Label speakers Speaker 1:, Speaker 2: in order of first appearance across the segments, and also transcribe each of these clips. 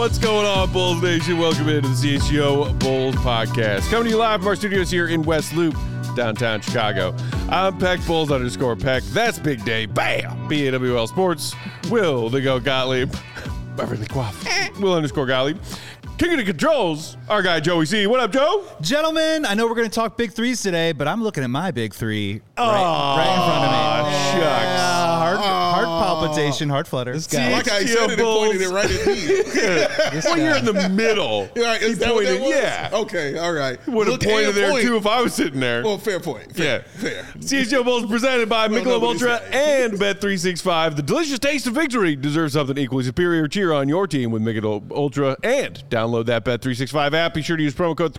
Speaker 1: What's going on, Bulls Nation? Welcome into the CHGO Bulls podcast. Coming to you live from our studios here in West Loop, downtown Chicago. I'm Peck, Bulls_Peck. That's Big Day. Bam! BAWL Sports. Will the Go Gottlieb. Beverly Quaff. Will_Gottlieb. King of the controls, our guy Joey C. What up, Joe?
Speaker 2: Gentlemen, I know we're going to talk big threes today, but I'm looking at my big three right in front of me.
Speaker 1: Shucks.
Speaker 2: Heart palpitation, heart flutter.
Speaker 3: I like how he said it and pointed it right at me.
Speaker 1: Well, you're in the middle.
Speaker 3: Right, is that what that was?
Speaker 1: Yeah.
Speaker 3: Okay, all right.
Speaker 1: Would have pointed there, too, if I was sitting there.
Speaker 3: Well, fair point. Fair.
Speaker 1: CHGO Bulls presented by Michelob Ultra and Bet365. The delicious taste of victory deserves something equally superior. Cheer on your team with Michelob Ultra and download that Bet365 app. Be sure to use promo code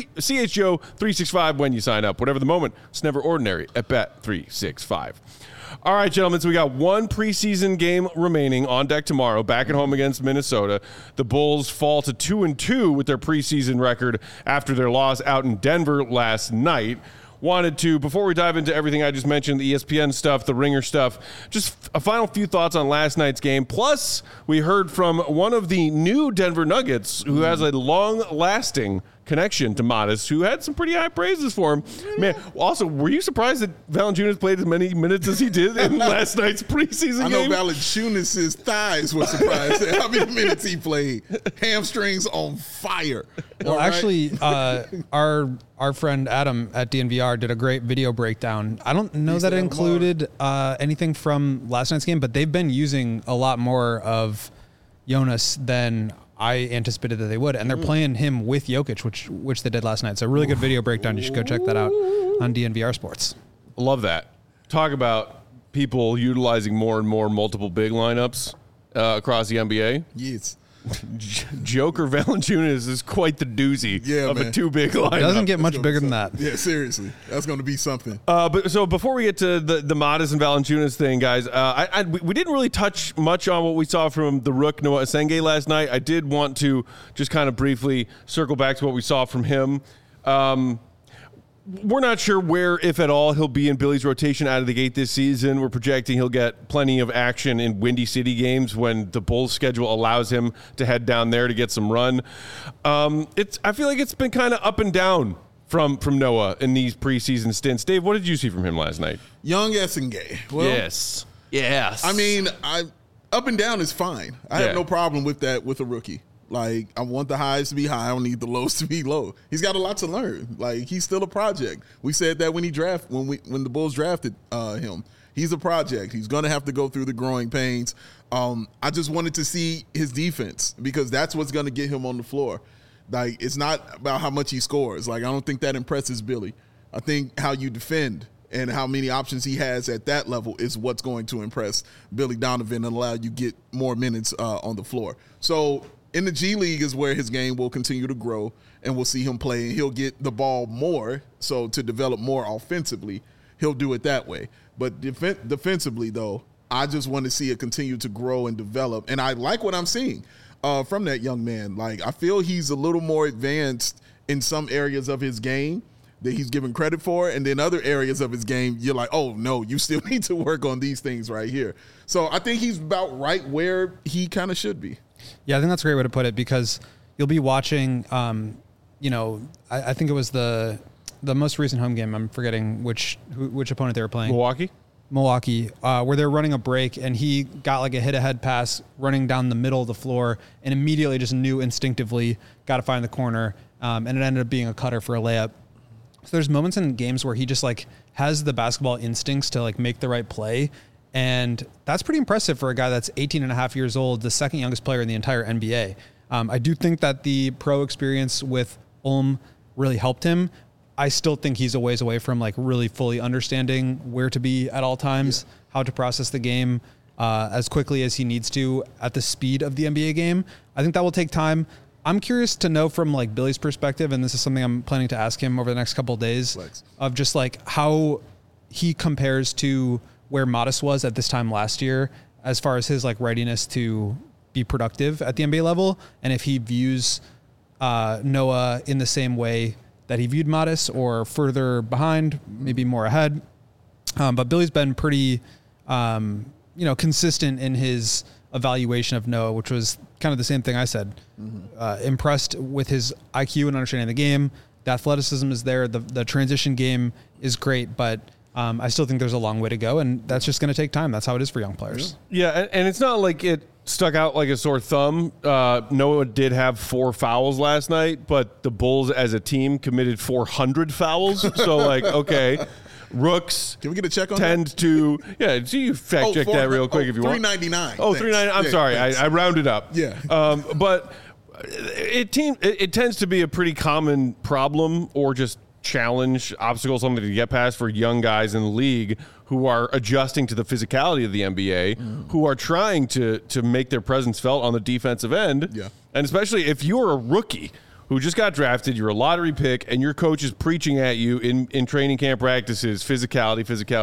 Speaker 1: CHGO365 when you sign up. Whatever the moment, it's never ordinary at Bet365. All right, gentlemen, so we got one preseason game remaining on deck tomorrow, back at home against Minnesota. The Bulls fall to 2-2 with their preseason record after their loss out in Denver last night. Wanted to, before we dive into everything I just mentioned, the ESPN stuff, the Ringer stuff, just a final few thoughts on last night's game. Plus, we heard from one of the new Denver Nuggets who has a long-lasting connection to Modest, who had some pretty high praises for him. Man, also, were you surprised that Valanciunas played as many minutes as he did in last night's preseason game?
Speaker 3: I know Valanciunas' thighs were surprised at how many minutes he played. Hamstrings on fire.
Speaker 4: Well, actually, our friend Adam at DNVR did a great video breakdown. I don't know that it included anything from last night's game, but they've been using a lot more of Jonas than I anticipated that they would, and they're playing him with Jokic, which they did last night. So a really good video breakdown. You should go check that out on DNVR Sports.
Speaker 1: Love that. Talk about people utilizing more and more multiple big lineups across the NBA.
Speaker 3: Yes.
Speaker 1: Joker Valanciunas is quite the doozy of a two big lineup.
Speaker 4: It doesn't get much bigger than that.
Speaker 3: Yeah, seriously. That's going to be something.
Speaker 1: But so before we get to the Modest and Valanciunas thing, guys, we didn't really touch much on what we saw from the Rook Noah Asenge last night. I did want to just kind of briefly circle back to what we saw from him. We're not sure where, if at all, he'll be in Billy's rotation out of the gate this season. We're projecting he'll get plenty of action in Windy City games when the Bulls schedule allows him to head down there to get some run. I feel like it's been kind of up and down from Noah in these preseason stints. Dave, what did you see from him last night?
Speaker 3: Young Asenge. Well,
Speaker 1: yes. I
Speaker 3: mean, up and down is fine. I have no problem with that with a rookie. Like, I want the highs to be high. I don't need the lows to be low. He's got a lot to learn. Like, he's still a project. We said that when the Bulls drafted him. He's a project. He's going to have to go through the growing pains. I just wanted to see his defense because that's what's going to get him on the floor. Like, it's not about how much he scores. Like, I don't think that impresses Billy. I think how you defend and how many options he has at that level is what's going to impress Billy Donovan and allow you get more minutes on the floor. So, in the G League is where his game will continue to grow, and we'll see him play, and he'll get the ball more, so to develop more offensively, he'll do it that way. But defensively, though, I just want to see it continue to grow and develop, and I like what I'm seeing from that young man. Like, I feel he's a little more advanced in some areas of his game that he's given credit for, and then other areas of his game, you're like, oh, no, you still need to work on these things right here. So I think he's about right where he kind of should be.
Speaker 4: Yeah, I think that's a great way to put it because you'll be watching, I think it was the most recent home game. I'm forgetting which opponent they were playing. Milwaukee, where they're running a break, and he got like a hit-ahead pass running down the middle of the floor and immediately just knew instinctively, got to find the corner, and it ended up being a cutter for a layup. So there's moments in games where he just like has the basketball instincts to like make the right play. And that's pretty impressive for a guy that's 18 and a half years old, the second youngest player in the entire NBA. I do think that the pro experience with Ulm really helped him. I still think he's a ways away from like really fully understanding where to be at all times, how to process the game as quickly as he needs to at the speed of the NBA game. I think that will take time. I'm curious to know from like Billy's perspective, and this is something I'm planning to ask him over the next couple of days, of just like how he compares to where Modest was at this time last year as far as his like readiness to be productive at the NBA level, and if he views Noah in the same way that he viewed Modest or further behind, maybe more ahead. But Billy's been pretty, consistent in his evaluation of Noah, which was kind of the same thing I said. Impressed with his IQ and understanding the game. The athleticism is there. The transition game is great, but I still think there's a long way to go, and that's just going to take time. That's how it is for young players.
Speaker 1: Yeah, and it's not like it stuck out like a sore thumb. Noah did have 4 fouls last night, but the Bulls as a team committed 400 fouls. So, like, okay, Rooks.
Speaker 3: Can we get a check on
Speaker 1: tend
Speaker 3: that?
Speaker 1: to, yeah, so you fact check that real quick if you want.
Speaker 3: 399.
Speaker 1: Oh, 399. I'm sorry. I rounded up.
Speaker 3: Yeah.
Speaker 1: But it tends to be a pretty common problem or just challenge, obstacle, something to get past for young guys in the league who are adjusting to the physicality of the NBA, who are trying to make their presence felt on the defensive end.
Speaker 3: Yeah.
Speaker 1: And especially if you're a rookie who just got drafted, you're a lottery pick, and your coach is preaching at you in training camp practices, physicality,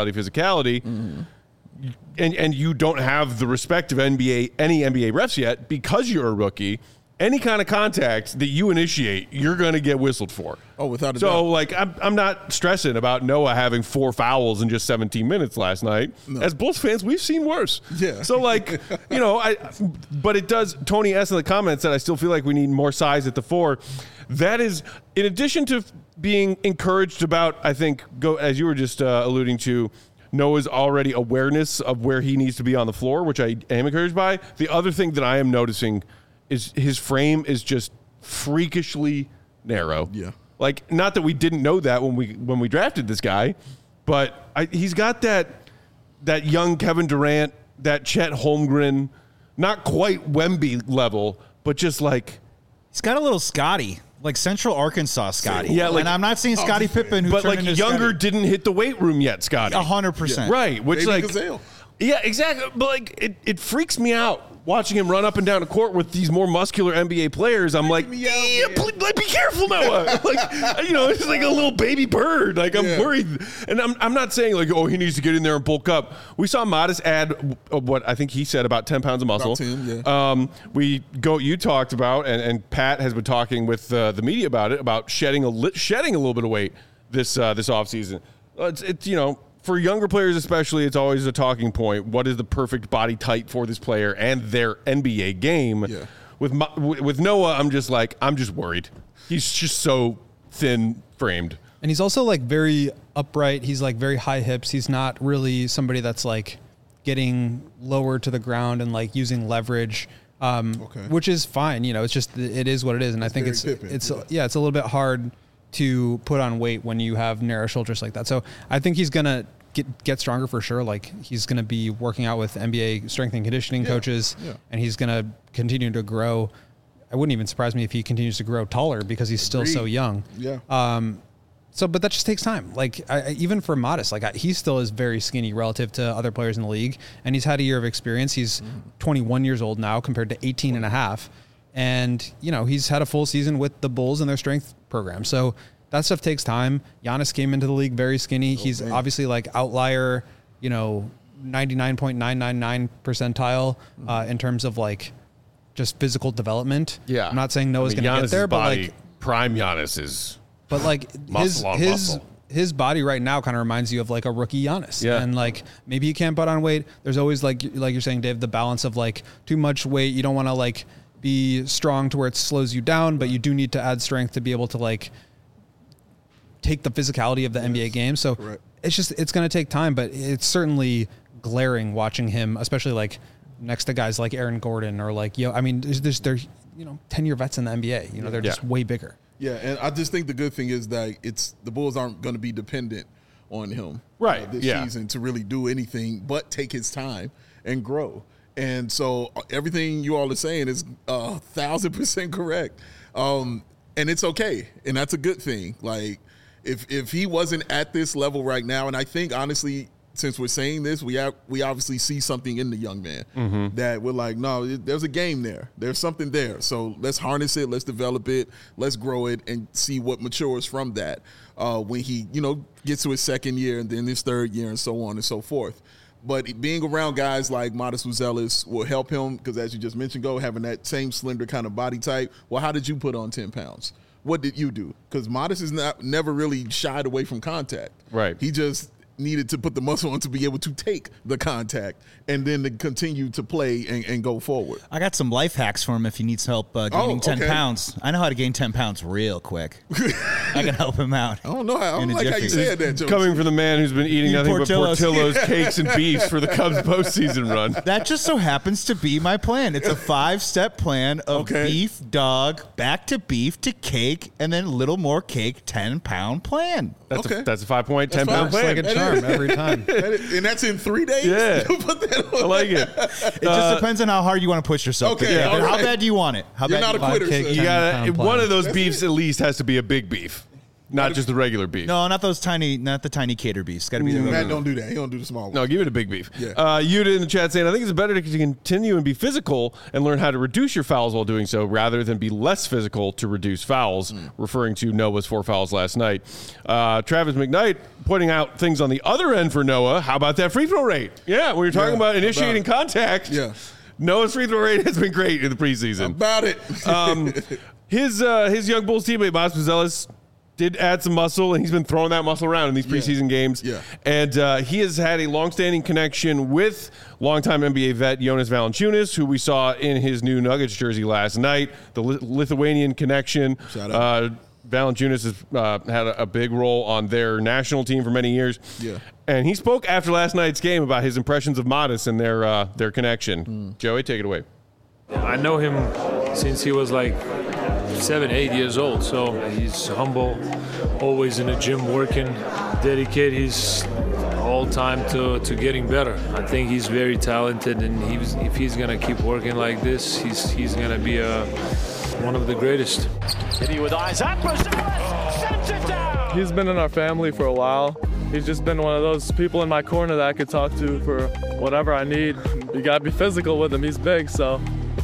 Speaker 1: and you don't have the respect of any NBA refs yet because you're a rookie. Any kind of contact that you initiate, you're going to get whistled for.
Speaker 3: Oh, without a doubt.
Speaker 1: So, like, I'm not stressing about Noah having 4 fouls in just 17 minutes last night. No. As Bulls fans, we've seen worse.
Speaker 3: Yeah.
Speaker 1: So, like, you know, but it does. Tony S. in the comments said, I still feel like we need more size at the 4. That is, in addition to being encouraged about, I think, as you were just alluding to, Noah's already awareness of where he needs to be on the floor, which I am encouraged by. The other thing that I am noticing is his frame is just freakishly narrow.
Speaker 3: Yeah.
Speaker 1: Like, not that we didn't know that when we drafted this guy, but he's got that young Kevin Durant, that Chet Holmgren, not quite Wemby level, but just like
Speaker 2: he's got a little Scotty, like Central Arkansas Scotty.
Speaker 1: Yeah, like,
Speaker 2: and I'm not saying Scottie Pippen, who
Speaker 1: but
Speaker 2: turned
Speaker 1: like
Speaker 2: into
Speaker 1: younger
Speaker 2: Scotty.
Speaker 1: didn't hit the weight room yet, Scotty.
Speaker 2: 100%.
Speaker 1: Right, which
Speaker 3: Baby
Speaker 1: like
Speaker 3: Gazelle.
Speaker 1: Yeah, exactly. But like it freaks me out watching him run up and down the court with these more muscular NBA players. I'm like, be careful, Noah. Like, you know, it's like a little baby bird. Like, I'm worried. And I'm not saying like, oh, he needs to get in there and bulk up. We saw Modest add what I think he said about 10 pounds of muscle.
Speaker 3: About 10, yeah.
Speaker 1: You talked about, and Pat has been talking with the media about it, about shedding a little bit of weight this offseason. It's you know, for younger players especially, it's always a talking point. What is the perfect body type for this player and their NBA game?
Speaker 3: Yeah.
Speaker 1: With Noah, I'm just worried. He's just so thin framed.
Speaker 4: And he's also like very upright. He's like very high hips. He's not really somebody that's like getting lower to the ground and like using leverage, which is fine. You know, it's just, it is what it is. And I think it's a little bit hard to put on weight when you have narrow shoulders like that. So I think he's going to get stronger for sure. Like, he's going to be working out with NBA strength and conditioning coaches, and he's going to continue to grow. It wouldn't even surprise me if he continues to grow taller because he's still so young.
Speaker 3: Yeah.
Speaker 4: But that just takes time. Like, even for Modest, like, he still is very skinny relative to other players in the league, and he's had a year of experience. He's 21 years old now compared to 18 and a half. And, you know, he's had a full season with the Bulls and their strength program. So that stuff takes time. Giannis came into the league very skinny. He's obviously like outlier, you know, 99.999 percentile in terms of like just physical development.
Speaker 1: Yeah.
Speaker 4: I'm not saying Noah's going to get there, but like
Speaker 1: prime Giannis is.
Speaker 4: But like his body right now kind of reminds you of like a rookie Giannis.
Speaker 1: Yeah.
Speaker 4: And like, maybe you can't put on weight. There's always like you're saying, Dave, the balance of like too much weight. You don't want to like be strong to where it slows you down, but you do need to add strength to be able to like take the physicality of the NBA game. So it's going to take time, but it's certainly glaring watching him, especially like next to guys like Aaron Gordon or like, they're 10-year vets in the NBA, you know, they're just way bigger.
Speaker 3: Yeah. And I just think the good thing is that the Bulls aren't going to be dependent on him this season to really do anything but take his time and grow. And so everything you all are saying is 1,000% correct. And it's okay. And that's a good thing. Like, if he wasn't at this level right now, and I think, honestly, since we're saying this, we obviously see something in the young man that we're like, no, there's a game there. There's something there. So let's harness it. Let's develop it. Let's grow it and see what matures from that when he, gets to his second year and then his third year and so on and so forth. But being around guys like Modest Buzelis will help him because, as you just mentioned, having that same slender kind of body type. Well, how did you put on 10 pounds? What did you do? Because Modest is never really shied away from contact.
Speaker 1: Right.
Speaker 3: He just needed to put the muscle on to be able to take the contact and then to continue to play and go forward.
Speaker 2: I got some life hacks for him if he needs help gaining 10 pounds. I know how to gain 10 pounds real quick. I can help him out.
Speaker 3: I don't know. I don't like how you said that, Joe.
Speaker 1: Coming from the man who's been eating nothing but Portillo's cakes and beefs for the Cubs postseason run.
Speaker 2: That just so happens to be my plan. It's a 5-step plan of beef, dog, back to beef to cake, and then a little more cake, 10-pound plan.
Speaker 1: That's a 5-point, 10-pound plan.
Speaker 4: Like a charm every time.
Speaker 3: And that's in 3 days?
Speaker 1: Yeah.
Speaker 3: Put that on.
Speaker 1: I like it.
Speaker 2: It just depends on how hard you want to push yourself.
Speaker 3: Okay.
Speaker 2: Yeah. How bad do you want it?
Speaker 3: You're not a quitter, sir.
Speaker 1: You gotta, one of those beefs at least has to be a big beef. Not just the regular beef.
Speaker 2: No, not the tiny cater beefs. Got to be the
Speaker 3: Matt don't do that. He don't do the small one.
Speaker 1: No, give it a big beef.
Speaker 3: Yeah.
Speaker 1: Yuta in the chat saying, I think it's better to continue and be physical and learn how to reduce your fouls while doing so rather than be less physical to reduce fouls, referring to Noah's 4 fouls last night. Travis McKnight pointing out things on the other end for Noah. How about that free throw rate? Yeah, when you're talking about initiating contact, Noah's free throw rate has been great in the preseason.
Speaker 3: About it.
Speaker 1: His young Bulls teammate, Miles Puzelis, did add some muscle, and he's been throwing that muscle around in these preseason games.
Speaker 3: Yeah.
Speaker 1: And he has had a long-standing connection with longtime NBA vet Jonas Valanciunas, who we saw in his new Nuggets jersey last night. The Lithuanian connection.
Speaker 3: Shout out.
Speaker 1: Valanciunas has had a big role on their national team for many years.
Speaker 3: Yeah.
Speaker 1: And he spoke after last night's game about his impressions of Modest and their connection. Joey, take it away.
Speaker 5: I know him since he was like 7, 8 years old, so he's humble, always in the gym working, dedicate his whole time to getting better. I think he's very talented, and if he's gonna keep working like this, he's gonna be one of the greatest.
Speaker 6: Hit with Isaac, sends it down.
Speaker 7: He's been in our family for a while. He's just been one of those people in my corner that I could talk to for whatever I need. You gotta be physical with him, he's big, so.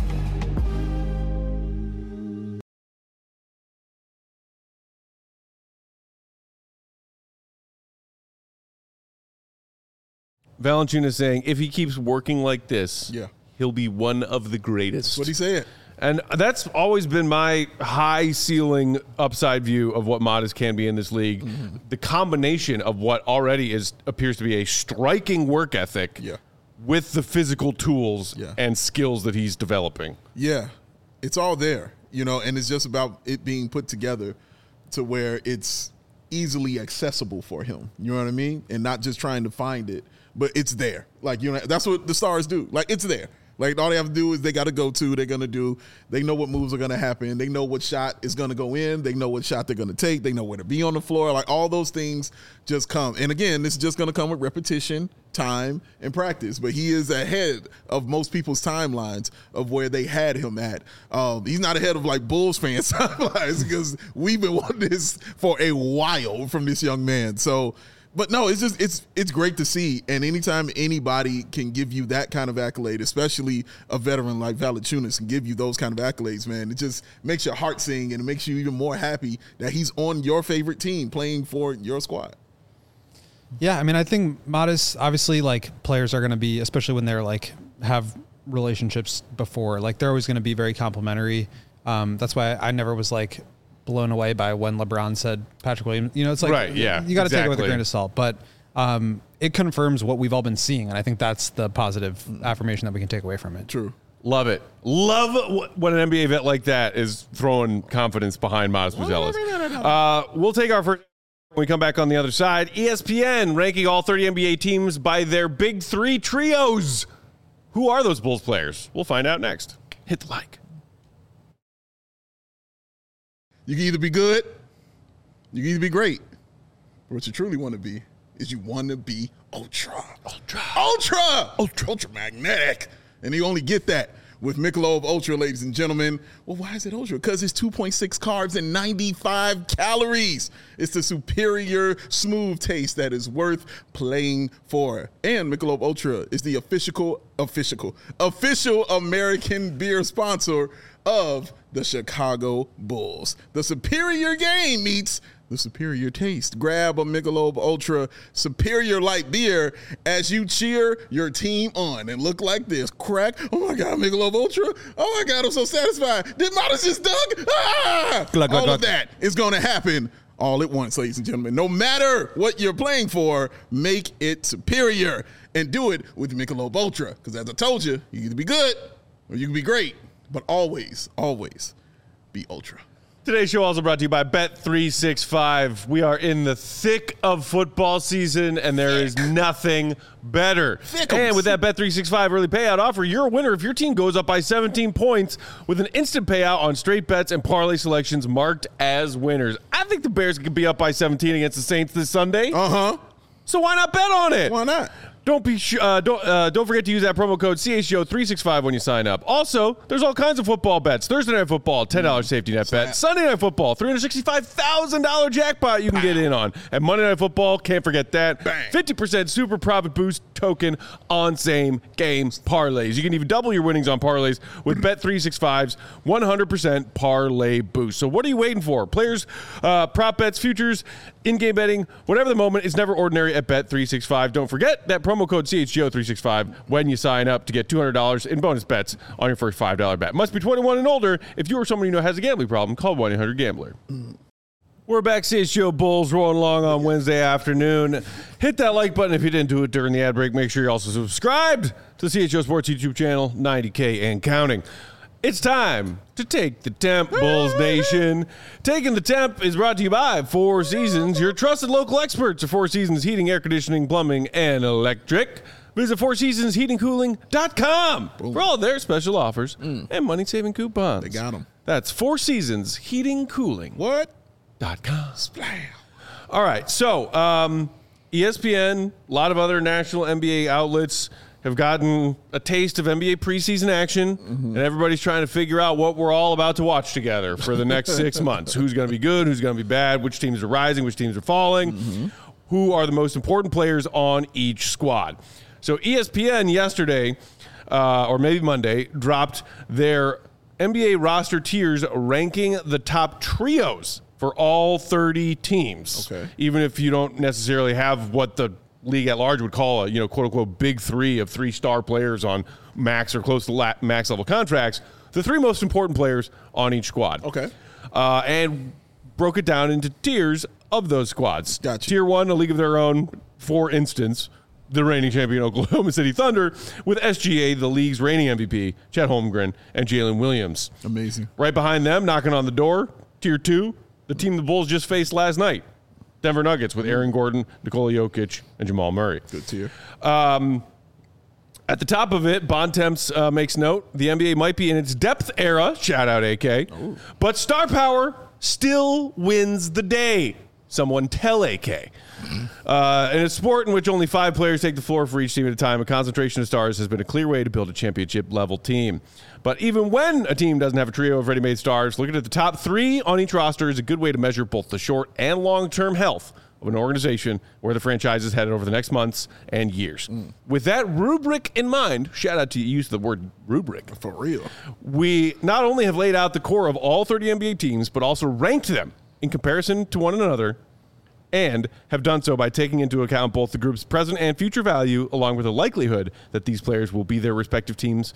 Speaker 1: Valanciunas saying if he keeps working like this, he'll be one of the greatest.
Speaker 3: That's what he said.
Speaker 1: And that's always been my high ceiling upside view of what Modest can be in this league. The combination of what already appears to be a striking work ethic with the physical tools and skills that he's developing.
Speaker 3: Yeah, it's all there, and it's just about it being put together to where it's easily accessible for him. You know what I mean? And not just trying to find it. But it's there. Like, that's what the stars do. Like, it's there. Like, all they have to do is they got to go to, they're going to do. They know what moves are going to happen. They know what shot is going to go in. They know what shot they're going to take. They know where to be on the floor. Like, all those things just come. And, again, this is just going to come with repetition, time, and practice. But he is ahead of most people's timelines of where they had him at. He's not ahead of, like, Bulls fans' timelines because we've been wanting this for a while from this young man. So, but no, it's just it's great to see, and anytime anybody can give you that kind of accolade, especially a veteran like Valanciunas can give you those kind of accolades, man, it just makes your heart sing and it makes you even more happy that he's on your favorite team playing for your squad.
Speaker 4: Yeah, I mean, I think Modest, obviously, like, players are going to be, especially when they're like have relationships before, like, they're always going to be very complimentary. That's why I never was like blown away by when LeBron said Patrick Williams. It's like, you got to take it with a grain of salt, but it confirms what we've all been seeing, and I think that's the positive affirmation that we can take away from it.
Speaker 3: True.
Speaker 1: Love it. Love when an NBA vet like that is throwing confidence behind Miles Puzelis. We'll take our first when we come back on the other side. ESPN ranking all 30 NBA teams by their big three trios. Who are those Bulls players? We'll find out next. Hit the like.
Speaker 3: You can either be good, you can either be great. But what you truly want to be is you want to be ultra magnetic. And you only get that with Michelob Ultra, ladies and gentlemen. Well, why is it ultra? Because it's 2.6 carbs and 95 calories. It's the superior smooth taste that is worth playing for. And Michelob Ultra is the official American beer sponsor of the Chicago Bulls. The superior game meets the superior taste. Grab a Michelob Ultra Superior Light Beer as you cheer your team on and look like this. Crack. Oh, my God, Michelob Ultra. Oh, my God, I'm so satisfied. Did Modest just dunk? All of that is going to happen all at once, ladies and gentlemen. No matter what you're playing for, make it superior. And do it with Michelob Ultra. Because as I told you, you can either be good or you can be great. But always, always be Ultra.
Speaker 1: Today's show also brought to you by Bet365. We are in the thick of football season, and there is nothing better. And with that Bet365 early payout offer, you're a winner if your team goes up by 17 points with an instant payout on straight bets and parlay selections marked as winners. I think the Bears could be up by 17 against the Saints this Sunday. So why not bet on it?
Speaker 3: Why not?
Speaker 1: Don't forget to use that promo code CHGO365 when you sign up. Also, there's all kinds of football bets. Thursday Night Football, $10 safety net bet. Sunday Night Football, $365,000 jackpot you can get in on. And Monday Night Football, can't forget that. 50% super profit boost token on same game parlays. You can even double your winnings on parlays with Bet365's 100% parlay boost. So what are you waiting for? Players, prop bets, futures, in-game betting, whatever the moment, is never ordinary at Bet365. Don't forget that promo code CHGO365 when you sign up to get $200 in bonus bets on your first $5 bet. Must be 21 and older. If you or someone you know has a gambling problem, call 1-800-GAMBLER. We're back, CHGO Bulls, rolling along on Wednesday afternoon. Hit that like button if you didn't do it during the ad break. Make sure you're also subscribed to the CHGO Sports YouTube channel, 90K and counting. It's time to take the temp, Bulls Nation. Taking the temp is brought to you by Four Seasons, your trusted local experts of Four Seasons Heating, Air Conditioning, Plumbing, and Electric. Visit FourSeasonsHeatingCooling.com for all their special offers and money-saving coupons.
Speaker 3: They got them.
Speaker 1: That's Four Seasons Heating Cooling.
Speaker 3: What.com.
Speaker 1: Splam. All right, so ESPN, a lot of other national NBA outlets have gotten a taste of NBA preseason action, and everybody's trying to figure out what we're all about to watch together for the next 6 months. Who's going to be good, who's going to be bad, which teams are rising, which teams are falling, who are the most important players on each squad. So ESPN yesterday, or maybe Monday, dropped their NBA roster tiers ranking the top trios for all 30 teams.
Speaker 3: Okay.
Speaker 1: Even if you don't necessarily have what the league at large would call a, quote unquote, big three of 3-star players on max or close to max level contracts, the 3 most important players on each squad.
Speaker 3: Okay.
Speaker 1: And broke it down into tiers of those squads.
Speaker 3: Gotcha.
Speaker 1: Tier 1, a league of their own, for instance, the reigning champion Oklahoma City Thunder, with SGA, the league's reigning MVP, Chet Holmgren, and Jalen Williams.
Speaker 3: Amazing.
Speaker 1: Right behind them, knocking on the door, Tier 2, the team the Bulls just faced last night, Denver Nuggets, with Aaron Gordon, Nikola Jokic, and Jamal Murray.
Speaker 3: Good tier.
Speaker 1: At the top of it, Bontemps makes note, the NBA might be in its depth era, shout out AK, but star power still wins the day. Someone tell AK. In a sport in which only 5 players take the floor for each team at a time, a concentration of stars has been a clear way to build a championship-level team. But even when a team doesn't have a trio of ready-made stars, looking at the top 3 on each roster is a good way to measure both the short and long-term health of an organization where the franchise is headed over the next months and years. With that rubric in mind, shout out to you, use the word rubric.
Speaker 3: For real.
Speaker 1: We not only have laid out the core of all 30 NBA teams, but also ranked them in comparison to one another, and have done so by taking into account both the group's present and future value, along with the likelihood that these players will be with their respective teams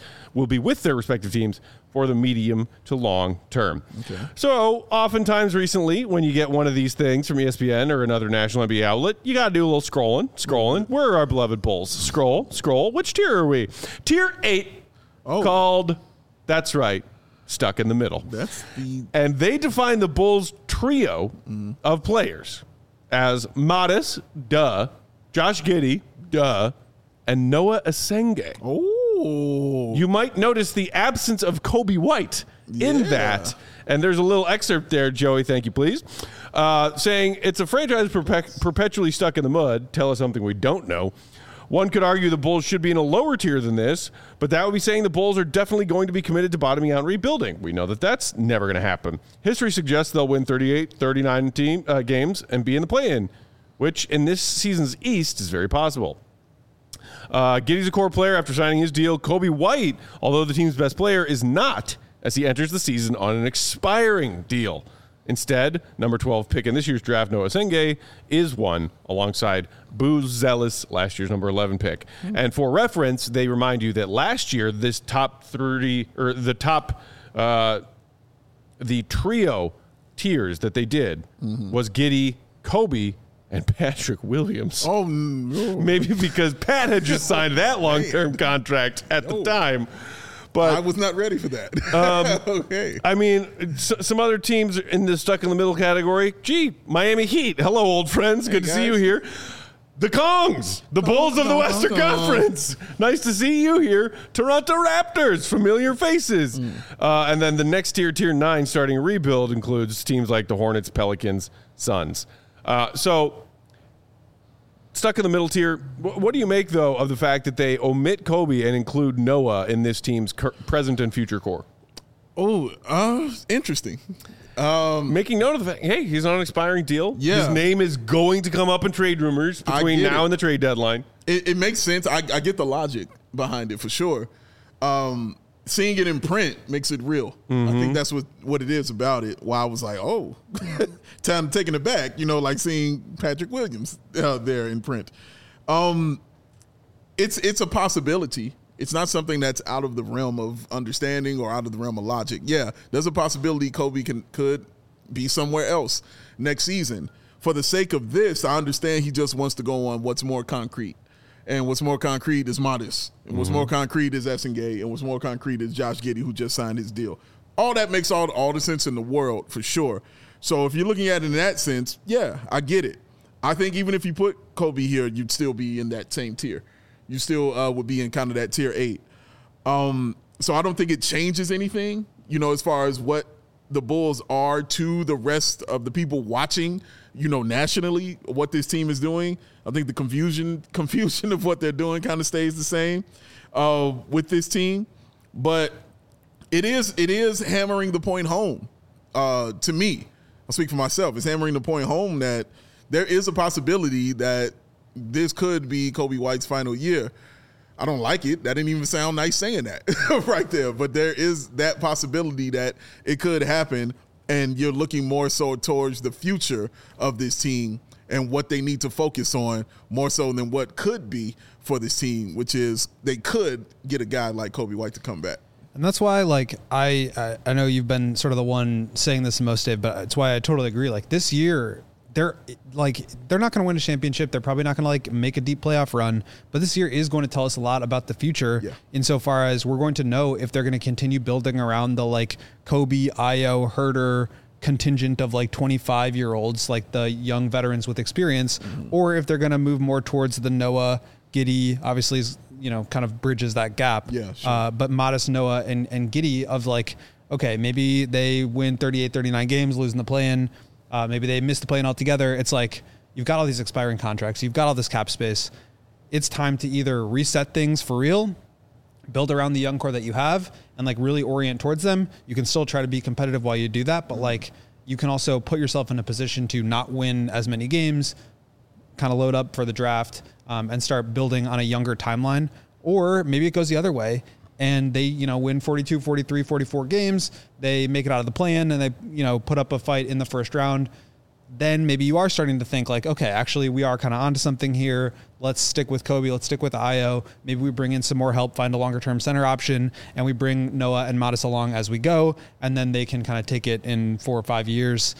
Speaker 1: for the medium to long term. Okay. So oftentimes recently, when you get one of these things from ESPN or another national NBA outlet, you got to do a little scrolling. Where are our beloved Bulls? Scroll. Which tier are we? Tier 8, called, that's right, Stuck in the Middle. And they define the Bulls trio of players as Modest, duh, Josh Giddey, duh, and Noah Asenge.
Speaker 3: Oh.
Speaker 1: You might notice the absence of Kobe White in that. And there's a little excerpt there, Joey, thank you, please, saying, it's a franchise perpetually stuck in the mud. Tell us something we don't know. One could argue the Bulls should be in a lower tier than this, but that would be saying the Bulls are definitely going to be committed to bottoming out and rebuilding. We know that that's never going to happen. History suggests they'll win 38, 39 games and be in the play-in, which in this season's East is very possible. Giddey's a core player after signing his deal. Kobe White, although the team's best player, is not, as he enters the season on an expiring deal. Instead, number 12 pick in this year's draft, Noah Asenge, is one alongside Booz Zealous, last year's number 11 pick. And for reference, they remind you that last year, this top 30, or the trio tiers that they did was Giddey, Kobe, and Patrick Williams.
Speaker 3: Oh, no.
Speaker 1: Maybe because Pat had just signed that long-term contract at the time. But
Speaker 3: I was not ready for that. Okay.
Speaker 1: I mean, some other teams in the stuck in the middle category. Gee, Miami Heat. Hello, old friends. Good to see you here. The Kongs, the Bulls of the Western Conference. Nice to see you here. Toronto Raptors, familiar faces. And then the next tier 9, starting a rebuild, includes teams like the Hornets, Pelicans, Suns. So stuck in the middle tier. What do you make, though, of the fact that they omit Kobe and include Noah in this team's present and future core?
Speaker 3: Interesting.
Speaker 1: Making note of the fact, hey, he's on an expiring deal.
Speaker 3: Yeah.
Speaker 1: His name is going to come up in trade rumors between now and the trade deadline.
Speaker 3: It makes sense. I get the logic behind it for sure. Seeing it in print makes it real. I think that's what it is about it. Why I was like, oh, time taking it back, like seeing Patrick Williams there in print. It's a possibility. It's not something that's out of the realm of understanding or out of the realm of logic. Yeah, there's a possibility Kobe could be somewhere else next season. For the sake of this, I understand he just wants to go on what's more concrete. And what's more concrete is Modest. And what's more concrete is Essengay. And what's more concrete is Josh Giddey, who just signed his deal. All that makes all the sense in the world, for sure. So if you're looking at it in that sense, yeah, I get it. I think even if you put Kobe here, you'd still be in that same tier. You still would be in kind of that tier 8. So I don't think it changes anything, as far as what the Bulls are to the rest of the people watching, nationally, what this team is doing. I think the confusion of what they're doing kind of stays the same with this team. But it is hammering the point home to me. I'll speak for myself. It's hammering the point home that there is a possibility that this could be Kobe White's final year. I don't like it. That didn't even sound nice saying that right there. But there is that possibility that it could happen, and you're looking more so towards the future of this team and what they need to focus on more so than what could be for this team, which is they could get a guy like Kobe White to come back.
Speaker 4: And that's why, I know you've been sort of the one saying this the most, Dave, but it's why I totally agree. This year, they're not going to win a championship. They're probably not going to make a deep playoff run, but this year is going to tell us a lot about the future insofar as we're going to know if they're going to continue building around the Kobe, Ayo, Herter contingent of 25-year-olds, the young veterans with experience, or if they're going to move more towards the Noah, Giddey, obviously is, kind of bridges that gap.
Speaker 3: Yeah, sure.
Speaker 4: But Modest, Noah, and Giddey of okay, maybe they win 38, 39 games, losing the play-in. Maybe they missed the play-in altogether. It's you've got all these expiring contracts. You've got all this cap space. It's time to either reset things for real, build around the young core that you have, and really orient towards them. You can still try to be competitive while you do that, but you can also put yourself in a position to not win as many games, kind of load up for the draft, and start building on a younger timeline. Or maybe it goes the other way, and they, win 42, 43, 44 games. They make it out of the play-in, and they, put up a fight in the first round. Then maybe you are starting to think okay, actually we are kind of onto something here. Let's stick with Kobe. Let's stick with Ayo. Maybe we bring in some more help, find a longer-term center option, and we bring Noah and Modest along as we go, and then they can kind of take it in 4 or 5 years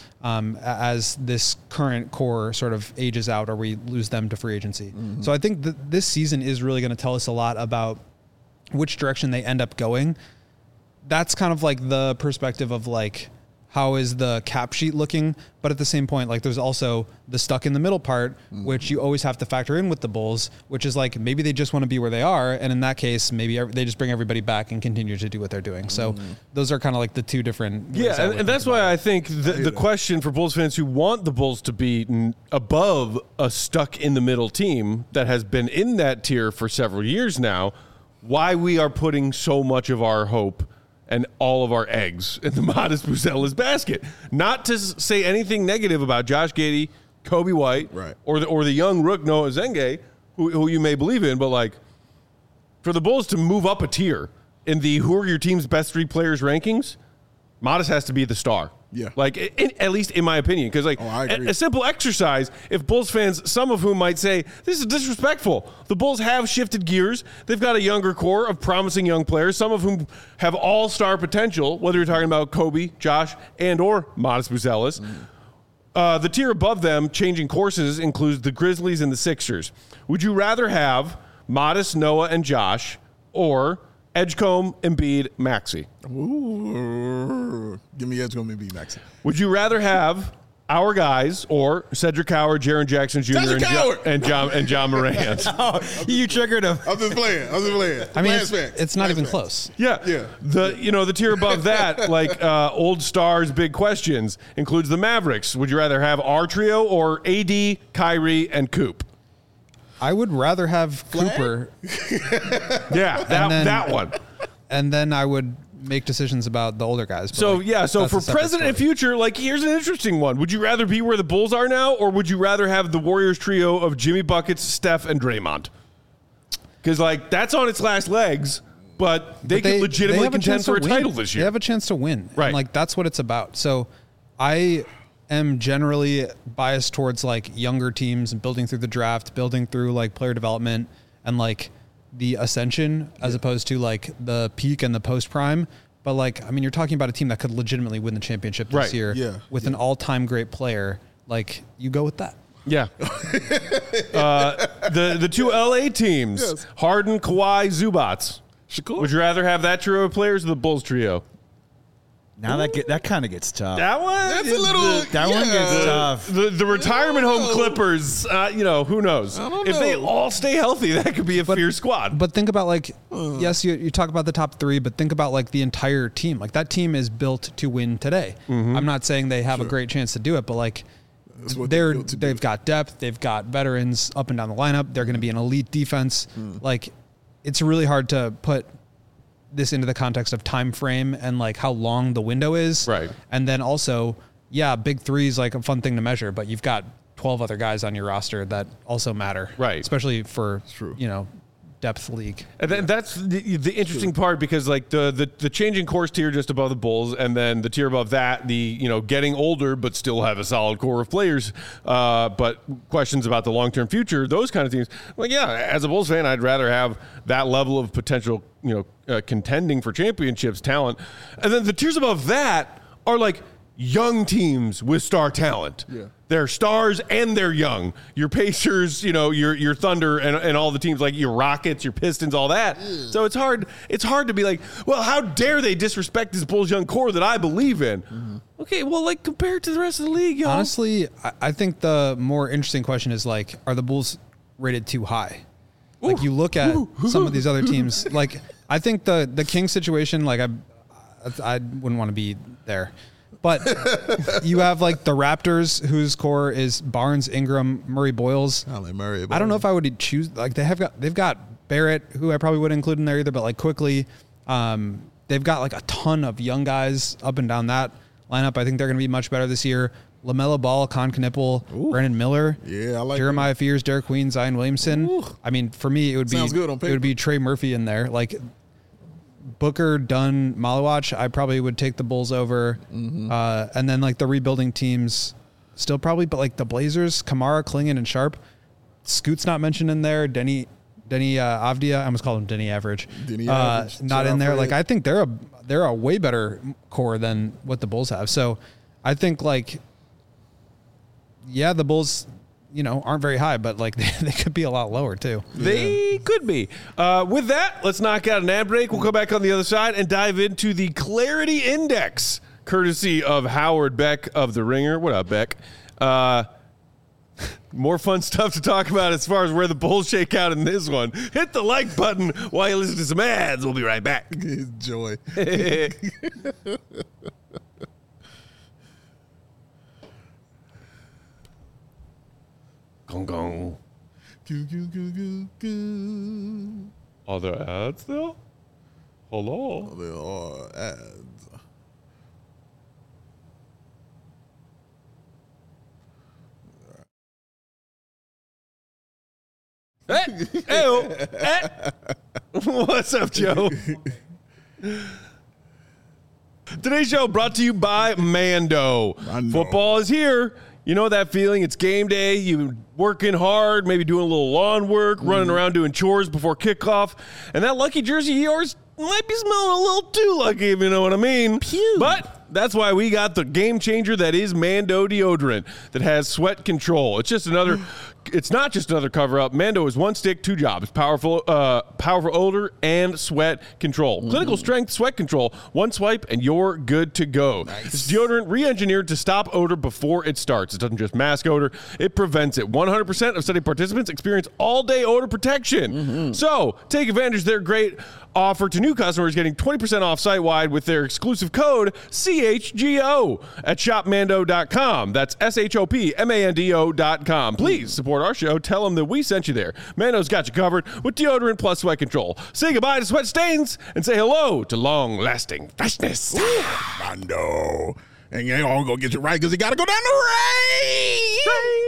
Speaker 4: as this current core sort of ages out or we lose them to free agency. So I think this season is really going to tell us a lot about which direction they end up going. That's kind of the perspective of how is the cap sheet looking? But at the same point, there's also the stuck in the middle part, which you always have to factor in with the Bulls, which is maybe they just want to be where they are. And in that case, maybe they just bring everybody back and continue to do what they're doing. So those are kind of the two different.
Speaker 1: Yeah. And that's why I think the question for Bulls fans who want the Bulls to be above a stuck in the middle team that has been in that tier for several years now, why we are putting so much of our hope and all of our eggs in the Modest Buzelis basket. Not to say anything negative about Josh Giddey, Kobe White,
Speaker 3: right,
Speaker 1: or the young rook Noah Essengay, who you may believe in, but for the Bulls to move up a tier in the who are your team's best 3 players rankings, Modest has to be the star.
Speaker 3: Yeah.
Speaker 1: Like, at least in my opinion. Because, like, a simple exercise, if Bulls fans, some of whom might say, this is disrespectful. The Bulls have shifted gears. They've got a younger core of promising young players, some of whom have all-star potential, whether you're talking about Kobe, Josh, and or Modest Buzelis. The tier above them, changing courses, includes the Grizzlies and the Sixers. Would you rather have Modest, Noah, and Josh, or Edgecombe, Embiid, Maxey?
Speaker 3: Ooh, give me Edgecombe, Embiid, Maxey.
Speaker 1: Would you rather have our guys or Cedric Howard, Jaren Jackson Jr., and John Morant?
Speaker 2: Oh, you triggered him.
Speaker 3: I'm just playing.
Speaker 4: I mean, it's not even close.
Speaker 1: Yeah. The tier above that, like old stars, big questions, includes the Mavericks. Would you rather have our trio or AD, Kyrie, and Coop?
Speaker 4: I would rather have Cooper.
Speaker 1: Yeah, that one.
Speaker 4: And then I would make decisions about the older guys.
Speaker 1: So for present and future, like, here's an interesting one. Would you rather be where the Bulls are now, or would you rather have the Warriors trio of Jimmy Buckets, Steph, and Draymond? Because, like, that's on its last legs, but they could legitimately contend for a title this year.
Speaker 4: They have a chance to win.
Speaker 1: Right.
Speaker 4: And, like, that's what it's about. So I am generally biased towards, like, younger teams and building through the draft, building through, like, player development and, like, the ascension as opposed to, like, the peak and the post prime. But, like, I mean, you're talking about a team that could legitimately win the championship this year with an all-time great player. Like, you go with that.
Speaker 1: Yeah. The two LA teams, Harden, Kawhi, Zubats.
Speaker 3: Shakur.
Speaker 1: Would you rather have that trio of players or the Bulls trio?
Speaker 2: Now that kind of gets tough.
Speaker 1: That one?
Speaker 3: That's a little...
Speaker 2: That one gets tough.
Speaker 1: The retirement home Clippers, who knows? If they all stay healthy, that could be a fierce squad.
Speaker 4: But think about, like, yes, you talk about the top three, but think about, like, the entire team. Like, that team is built to win today. I'm not saying they have a great chance to do it, but, like, they've got depth, they've got veterans up and down the lineup. They're going to be an elite defense. Like, it's really hard to put this into the context of time frame and, like, how long the window is.
Speaker 1: Right.
Speaker 4: And then also, big three is, like, a fun thing to measure, but you've got 12 other guys on your roster that also matter.
Speaker 1: Right.
Speaker 4: Especially for, depth league.
Speaker 1: And then that's the interesting part, because, like, the changing course tier just above the Bulls, and then the tier above that, getting older but still have a solid core of players, but questions about the long-term future, those kind of teams. Well, as a Bulls fan, I'd rather have that level of potential, contending for championships talent. And then the tiers above that are, like, young teams with star talent. Yeah. They're stars and they're young. Your Pacers, your Thunder and all the teams, like your Rockets, your Pistons, all that. So it's hard to be like, well, how dare they disrespect this Bulls young core that I believe in? Okay, well, like, compared to the rest of the league, y'all.
Speaker 4: Honestly, I think the more interesting question is, like, are the Bulls rated too high? Like, you look at some of these other teams, like, I think the Kings situation, like, I wouldn't want to be there. But you have, like, the Raptors, whose core is Barnes, Ingram, Murray, Boyles.
Speaker 3: I like Murray.
Speaker 4: I don't know if I would choose, like, they've got Barrett, who I probably wouldn't include in there either, but, like, quickly, they've got, like, a ton of young guys up and down that lineup. I think they're going to be much better this year. LaMelo Ball, Con Knippel, Brandon Miller,
Speaker 3: I like
Speaker 4: Jeremiah Fears, Derek Queen, Zion Williamson. I mean, for me, it would be Trey Murphy in there. Like, Booker, Dunn, Malawach, I probably would take the Bulls over. And then, like, the rebuilding teams still probably, but, like, the Blazers, Kamara, Klingon, and Sharp. Scoot's not mentioned in there. Denny Avdia, I almost called him Denny Average. Not in there. Like, I think they're a way better core than what the Bulls have. So I think, like, the Bulls, aren't very high, but, like, they could be a lot lower too.
Speaker 1: They could be. With that, let's knock out an ad break. We'll come back on the other side and dive into the Clarity Index, courtesy of Howard Beck of The Ringer. What up, Beck? More fun stuff to talk about as far as where the Bulls shake out in this one. Hit the like button while you listen to some ads. We'll be right back.
Speaker 3: Enjoy.
Speaker 1: Gong gong. Are there ads there? Hello?
Speaker 3: There are ads.
Speaker 1: Hey, what's up, Joe? Today's show brought to you by Mando. Football is here. You know that feeling? It's game day. You working hard, maybe doing a little lawn work, running around doing chores before kickoff. And that lucky jersey of yours might be smelling a little too lucky, if you know what I mean.
Speaker 2: Pew.
Speaker 1: But that's why we got the game changer that is Mando deodorant that has sweat control. It's not just another cover up. Mando is one stick, two jobs: powerful odor and sweat control. Clinical strength sweat control. One swipe and you're good to go.
Speaker 3: Nice.
Speaker 1: It's deodorant re-engineered to stop odor before it starts. It doesn't just mask odor; it prevents it. 100% of study participants experience all-day odor protection. So take advantage of their great offer to new customers, getting 20% off site-wide with their exclusive code CHGO at shopmando.com. That's SHOPMANDO.com. Please support our show. Tell them that we sent you there. Mando's got you covered with deodorant plus sweat control. Say goodbye to sweat stains and say hello to long-lasting freshness.
Speaker 3: Mando. And you ain't all gonna get you right because you gotta go down to Ray.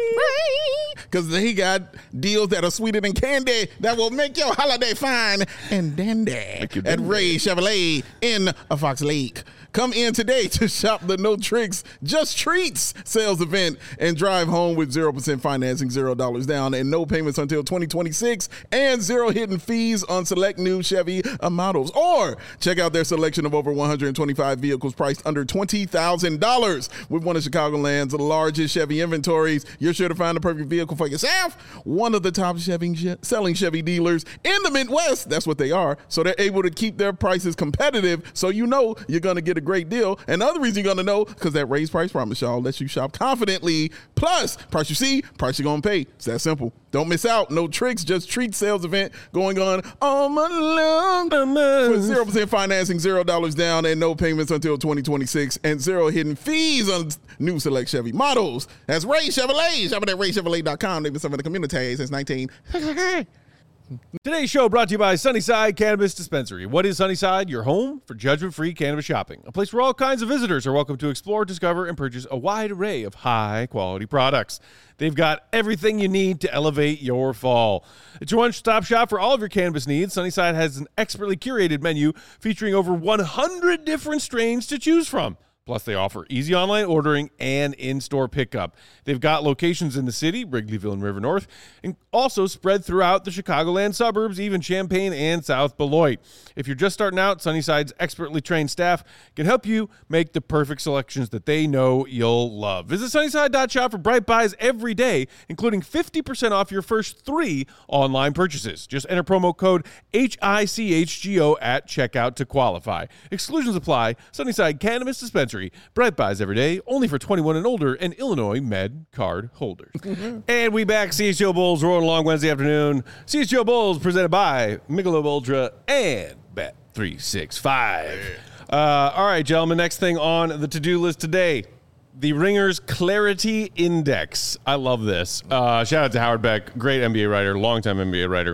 Speaker 3: Because he got deals that are sweeter than candy that will make your holiday fine and dandy at Ray Chevrolet in Fox Lake. Come in today to shop the No Tricks, Just Treats sales event and drive home with 0% financing, $0 down, and no payments until 2026, and zero hidden fees on select new Chevy models. Or check out their selection of over 125 vehicles priced under $20,000. With one of Chicagoland's largest Chevy inventories, you're sure to find the perfect vehicle for yourself. One of the top selling Chevy dealers in the Midwest, that's what they are, so they're able to keep their prices competitive, so you know you're going to get a great deal. And the other reason you're going to know, because that raised price promise, y'all, lets you shop confidently. Plus, price you see, price you're going to pay. It's that simple. Don't miss out. No Tricks, Just Treat sales event going on all month long with 0% financing, $0 down, and no payments until 2026, and zero hidden fees on new select Chevy models. That's Ray Chevrolet. Shop at RayChevrolet.com. They've been serving the community since 19.
Speaker 1: Today's show brought to you by Sunnyside Cannabis Dispensary. What is Sunnyside? Your home for judgment-free cannabis shopping. A place where all kinds of visitors are welcome to explore, discover, and purchase a wide array of high-quality products. They've got everything you need to elevate your fall. It's your one-stop shop for all of your cannabis needs. Sunnyside has an expertly curated menu featuring over 100 different strains to choose from. Plus, they offer easy online ordering and in-store pickup. They've got locations in the city, Wrigleyville and River North, and also spread throughout the Chicagoland suburbs, even Champaign and South Beloit. If you're just starting out, Sunnyside's expertly trained staff can help you make the perfect selections that they know you'll love. Visit Sunnyside.shop for bright buys every day, including 50% off your first 3 online purchases. Just enter promo code HICHGO at checkout to qualify. Exclusions apply. Sunnyside Cannabis Dispensary. Bright buys every day, only for 21 and older and Illinois Med card holders. And we back. CHGO Bulls rolling along Wednesday afternoon. CHGO Bulls presented by Michelob Ultra and Bet365. All right, gentlemen, next thing on the to-do list today, the Ringer's Clarity Index. I love this. Shout out to Howard Beck, great NBA writer, longtime NBA writer.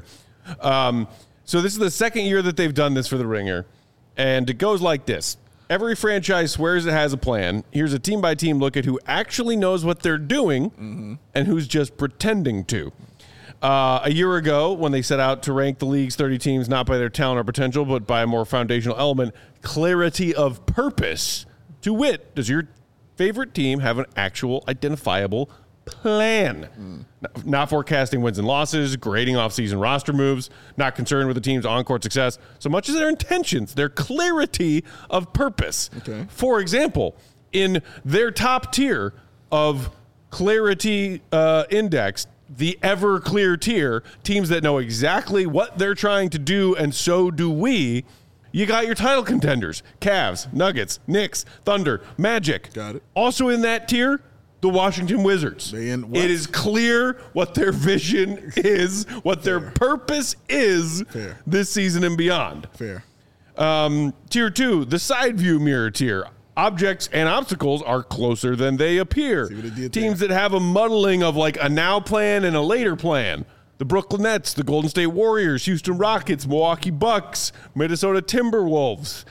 Speaker 1: So this is the second year that they've done this for the Ringer, and it goes like this. Every franchise swears it has a plan. Here's a team-by-team look at who actually knows what they're doing and who's just pretending to. A year ago, when they set out to rank the league's 30 teams not by their talent or potential, but by a more foundational element, clarity of purpose. To wit, does your favorite team have an actual identifiable plan? Not forecasting wins and losses, grading off-season roster moves, not concerned with the team's on-court success so much as their intentions, their clarity of purpose. Okay. For example, in their top tier of clarity index, the ever-clear tier, teams that know exactly what they're trying to do, and so do we, you got your title contenders, Cavs, Nuggets, Knicks, Thunder, Magic.
Speaker 3: Got it.
Speaker 1: Also in that tier, the Washington Wizards. It is clear what their vision is, what their purpose is this season and beyond.
Speaker 3: Fair.
Speaker 1: Tier 2, the side view mirror tier. Objects and obstacles are closer than they appear. Teams that have a muddling of like a now plan and a later plan. The Brooklyn Nets, the Golden State Warriors, Houston Rockets, Milwaukee Bucks, Minnesota Timberwolves.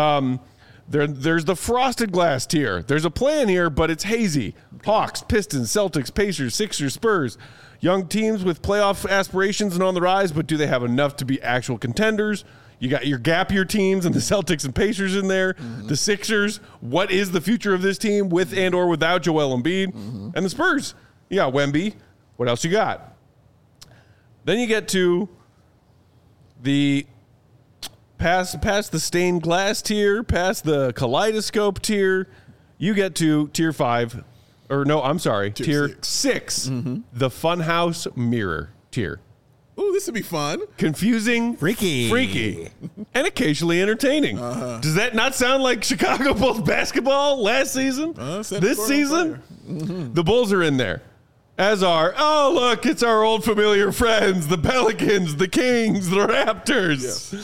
Speaker 1: There's the frosted glass tier. There's a plan here, but it's hazy. Hawks, Pistons, Celtics, Pacers, Sixers, Spurs. Young teams with playoff aspirations and on the rise, but do they have enough to be actual contenders? You got your gap year teams and the Celtics and Pacers in there. The Sixers. What is the future of this team with and or without Joel Embiid? And the Spurs. You got Wemby. What else you got? Then you get to the past the stained glass tier, past the kaleidoscope tier. You get to tier 5. Or no, I'm sorry, tier 6. The Funhouse Mirror tier.
Speaker 3: Ooh, this would be fun.
Speaker 1: Confusing, freaky, and occasionally entertaining. Does that not sound like Chicago Bulls basketball last season? This season? The Bulls are in there. As are, oh, look, it's our old familiar friends, the Pelicans, the Kings, the Raptors.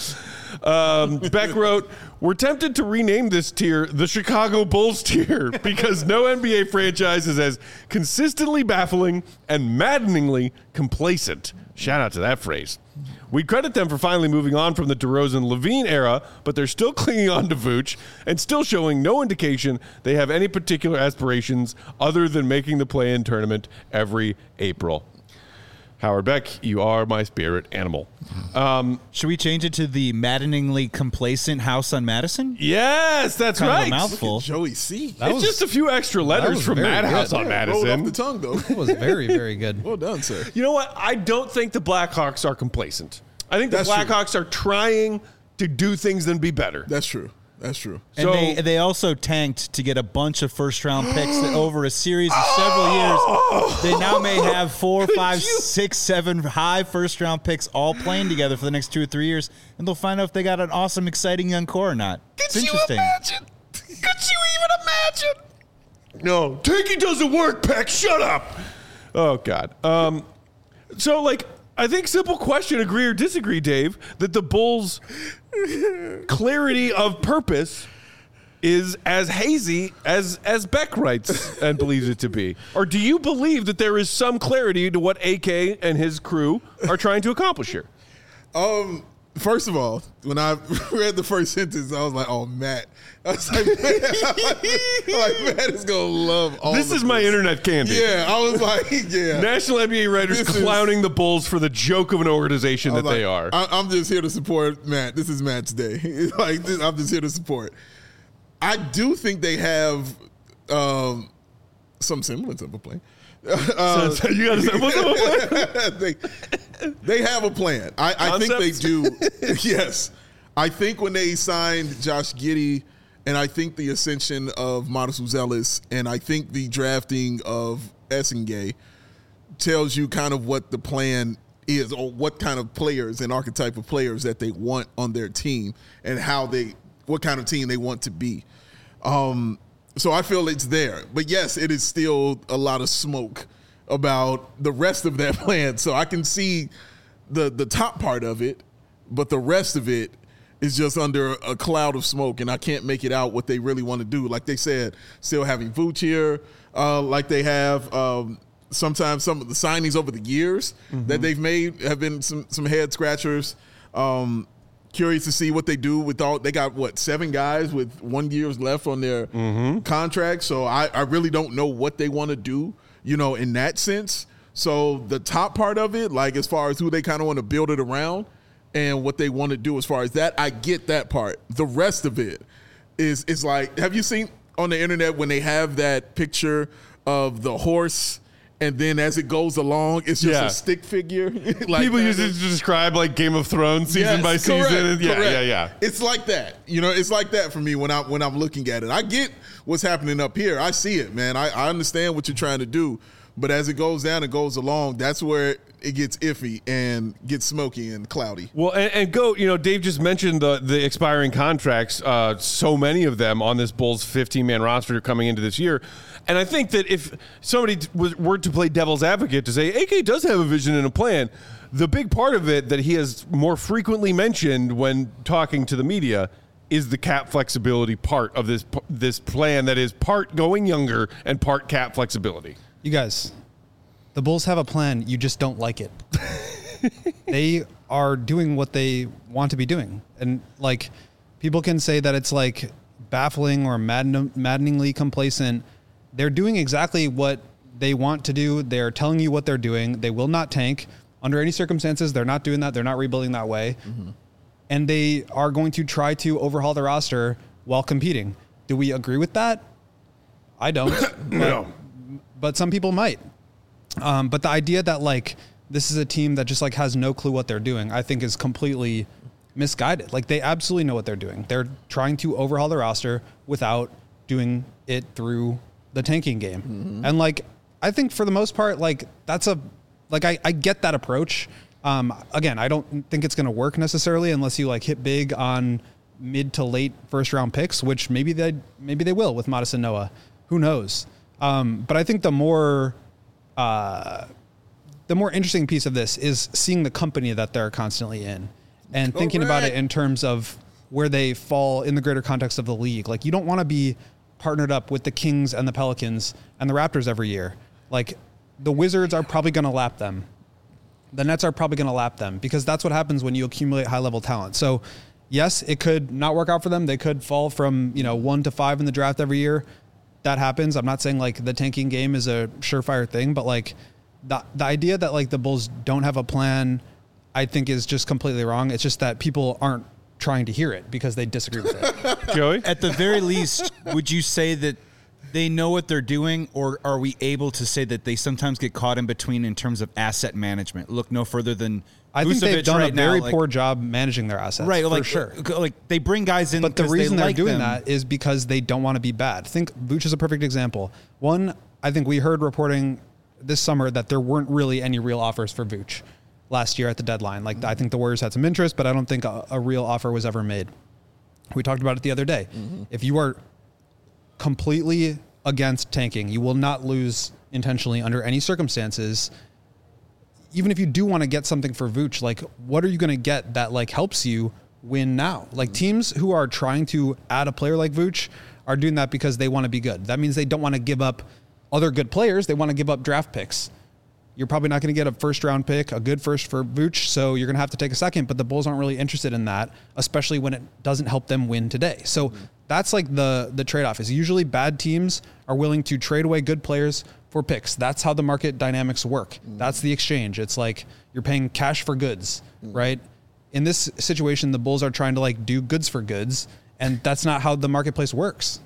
Speaker 1: Yes. Beck wrote, we're tempted to rename this tier the Chicago Bulls tier because no NBA franchise is as consistently baffling and maddeningly complacent. Shout out to that phrase. We credit them for finally moving on from the DeRozan-Levine era, but they're still clinging on to Vooch and still showing no indication they have any particular aspirations other than making the play-in tournament every April. Howard Beck, you are my spirit animal.
Speaker 2: Should we change it to the maddeningly complacent House on Madison?
Speaker 1: Yes, that's
Speaker 2: kind
Speaker 1: right.
Speaker 2: Of a mouthful.
Speaker 3: Joey C.
Speaker 1: It's just a few extra letters from Madhouse on Madison.
Speaker 3: Rolled off the tongue, though.
Speaker 4: It was very, very good.
Speaker 3: Well done, sir.
Speaker 1: You know what? I don't think the Blackhawks are complacent. I think the Blackhawks are trying to do things and be better.
Speaker 3: That's true. That's true.
Speaker 2: And they also tanked to get a bunch of first-round picks over a series of several years. They now may have 4, 5, 6, 7 high first-round picks all playing together for the next 2 or 3 years, and they'll find out if they got an awesome, exciting young core or not. It's interesting.
Speaker 1: Could you even imagine? No. Tanking doesn't work, Peck. Shut up. Oh, God. So, like, I think simple question, agree or disagree, Dave, that the Bulls' clarity of purpose is as hazy as Beck writes and believes it to be. Or do you believe that there is some clarity to what AK and his crew are trying to accomplish here?
Speaker 3: First of all, when I read the first sentence, I was like, "Oh, Matt." I was like, Matt is gonna love all.
Speaker 1: This is my internet candy.
Speaker 3: Yeah, I was like, yeah.
Speaker 1: National NBA writers clowning the Bulls for the joke of an organization that they are.
Speaker 3: I'm just here to support Matt. This is Matt's day. I'm just here to support. I do think they have some semblance of a plan.
Speaker 1: So you got a semblance of a
Speaker 3: plan? They have a plan. I think they do. Yes. I think when they signed Josh Giddey, and I think the ascension of Modest Uzelis, and I think the drafting of Essengay tells you kind of what the plan is, or what kind of players and archetype of players that they want on their team, and what kind of team they want to be. So I feel it's there. But yes, it is still a lot of smoke about the rest of that plan. So I can see the top part of it, but the rest of it is just under a cloud of smoke, and I can't make it out what they really want to do. Like they said, still having Vooch here, like they have. Sometimes some of the signings over the years that they've made have been some head scratchers. Curious to see what they do with they got 7 guys with 1 year left on their contract. So I really don't know what they want to do, in that sense. So the top part of it, like as far as who they kind of want to build it around and what they want to do as far as that, I get that part. The rest of it is like, have you seen on the internet when they have that picture of the horse and then as it goes along, it's just a stick figure? Like
Speaker 1: people use it to describe like Game of Thrones season by season. Yeah.
Speaker 3: It's like that. It's like that for me when I'm looking at it. I get what's happening up here. I see it, man. I understand what you're trying to do. But as it goes down and goes along, that's where it gets iffy and gets smoky and cloudy.
Speaker 1: Well, and Dave just mentioned the expiring contracts, so many of them on this Bulls 15-man roster coming into this year. And I think that if somebody were to play devil's advocate to say, AK does have a vision and a plan, the big part of it that he has more frequently mentioned when talking to the media is the cap flexibility part of this plan that is part going younger and part cap flexibility.
Speaker 4: You guys, the Bulls have a plan. You just don't like it. They are doing what they want to be doing. And like people can say that it's like baffling or maddeningly complacent. They're doing exactly what they want to do. They're telling you what they're doing. They will not tank under any circumstances. They're not doing that. They're not rebuilding that way. and they are going to try to overhaul the roster while competing. Do we agree with that? I don't.
Speaker 1: No.
Speaker 4: But some people might. But the idea that like this is a team that just like has no clue what they're doing, I think is completely misguided. Like they absolutely know what they're doing. They're trying to overhaul the roster without doing it through the tanking game. Mm-hmm. And like, I think for the most part, like that's I get that approach. Again, I don't think it's going to work necessarily unless you like hit big on mid to late first round picks, which maybe they will with Madison Noah. Who knows? But I think the more interesting piece of this is seeing the company that they're constantly in and thinking about it in terms of where they fall in the greater context of the league. Like you don't want to be partnered up with the Kings and the Pelicans and the Raptors every year. Like the Wizards are probably going to lap them. The Nets are probably going to lap them because that's what happens when you accumulate high level talent. So yes, it could not work out for them. They could fall from, 1 to 5 in the draft every year. That happens. I'm not saying like the tanking game is a surefire thing, but like the idea that like the Bulls don't have a plan, I think is just completely wrong. It's just that people aren't trying to hear it because they disagree with it.
Speaker 1: Joey?
Speaker 2: At the very least, would you say that they know what they're doing, or are we able to say that they sometimes get caught in between in terms of asset management? Look no further than
Speaker 4: I think they've done a very poor job managing their assets.
Speaker 2: Right,
Speaker 4: for sure.
Speaker 2: Like they bring guys in,
Speaker 4: but the reason they're doing
Speaker 2: them.
Speaker 4: that is because they don't want to be bad. Think Vooch is a perfect example. One, I think we heard reporting this summer that there weren't really any real offers for Vooch last year at the deadline. Like I think the Warriors had some interest, but I don't think a real offer was ever made. We talked about it the other day. Mm-hmm. If you are completely against tanking, you will not lose intentionally under any circumstances. Even if you do want to get something for Vooch, like what are you going to get that like helps you win now? Like teams who are trying to add a player like Vooch are doing that because they want to be good. That means they don't want to give up other good players. They want to give up draft picks. You're probably not going to get a first round pick, a good first for Vooch, so you're going to have to take a second, but the Bulls aren't really interested in that, especially when it doesn't help them win today. So that's like the trade-off is usually bad teams are willing to trade away good players for picks. That's how the market dynamics work. That's the exchange. It's like you're paying cash for goods, right? In this situation, the Bulls are trying to like do goods for goods, and that's not how the marketplace works.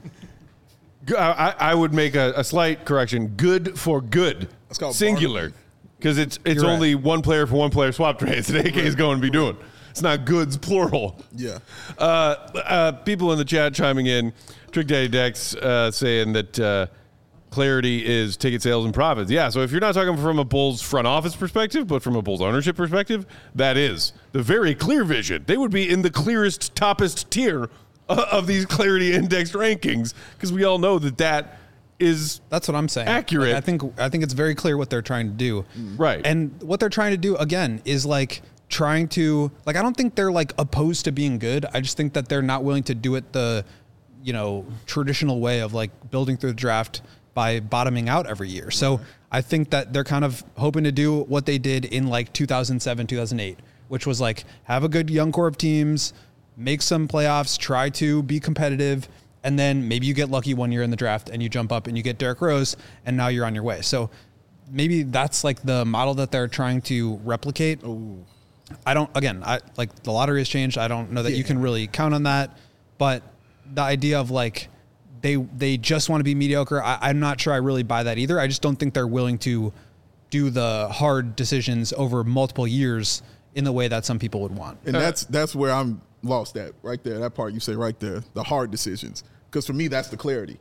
Speaker 1: I would make a slight correction. Good for good. Singular. Because it's only right. One player for one player swap trades that AK is going to be doing. It's not goods, plural.
Speaker 3: Yeah.
Speaker 1: People in the chat chiming in. Trick Daddy Dex saying that clarity is ticket sales and profits. Yeah, so if you're not talking from a Bulls front office perspective, but from a Bulls ownership perspective, that is the very clear vision. They would be in the clearest, toppest tier of these clarity indexed rankings because we all know that is
Speaker 4: that's what I'm saying.
Speaker 1: Accurate.
Speaker 4: Like, I think it's very clear what they're trying to do.
Speaker 1: Right.
Speaker 4: And what they're trying to do again is like trying to like I don't think they're like opposed to being good. I just think that they're not willing to do it the traditional way of like building through the draft by bottoming out every year. So I think that they're kind of hoping to do what they did in like 2007, 2008, which was like have a good young core of teams, make some playoffs, try to be competitive, and then maybe you get lucky one year in the draft and you jump up and you get Derrick Rose and now you're on your way. So maybe that's like the model that they're trying to replicate.
Speaker 3: Ooh.
Speaker 4: I like the lottery has changed. I don't know that you can really count on that, but the idea of like they just want to be mediocre. I'm not sure I really buy that either. I just don't think they're willing to do the hard decisions over multiple years in the way that some people would want.
Speaker 3: And that's where I'm lost at right there. That part you say right there, the hard decisions. Because for me, that's the clarity,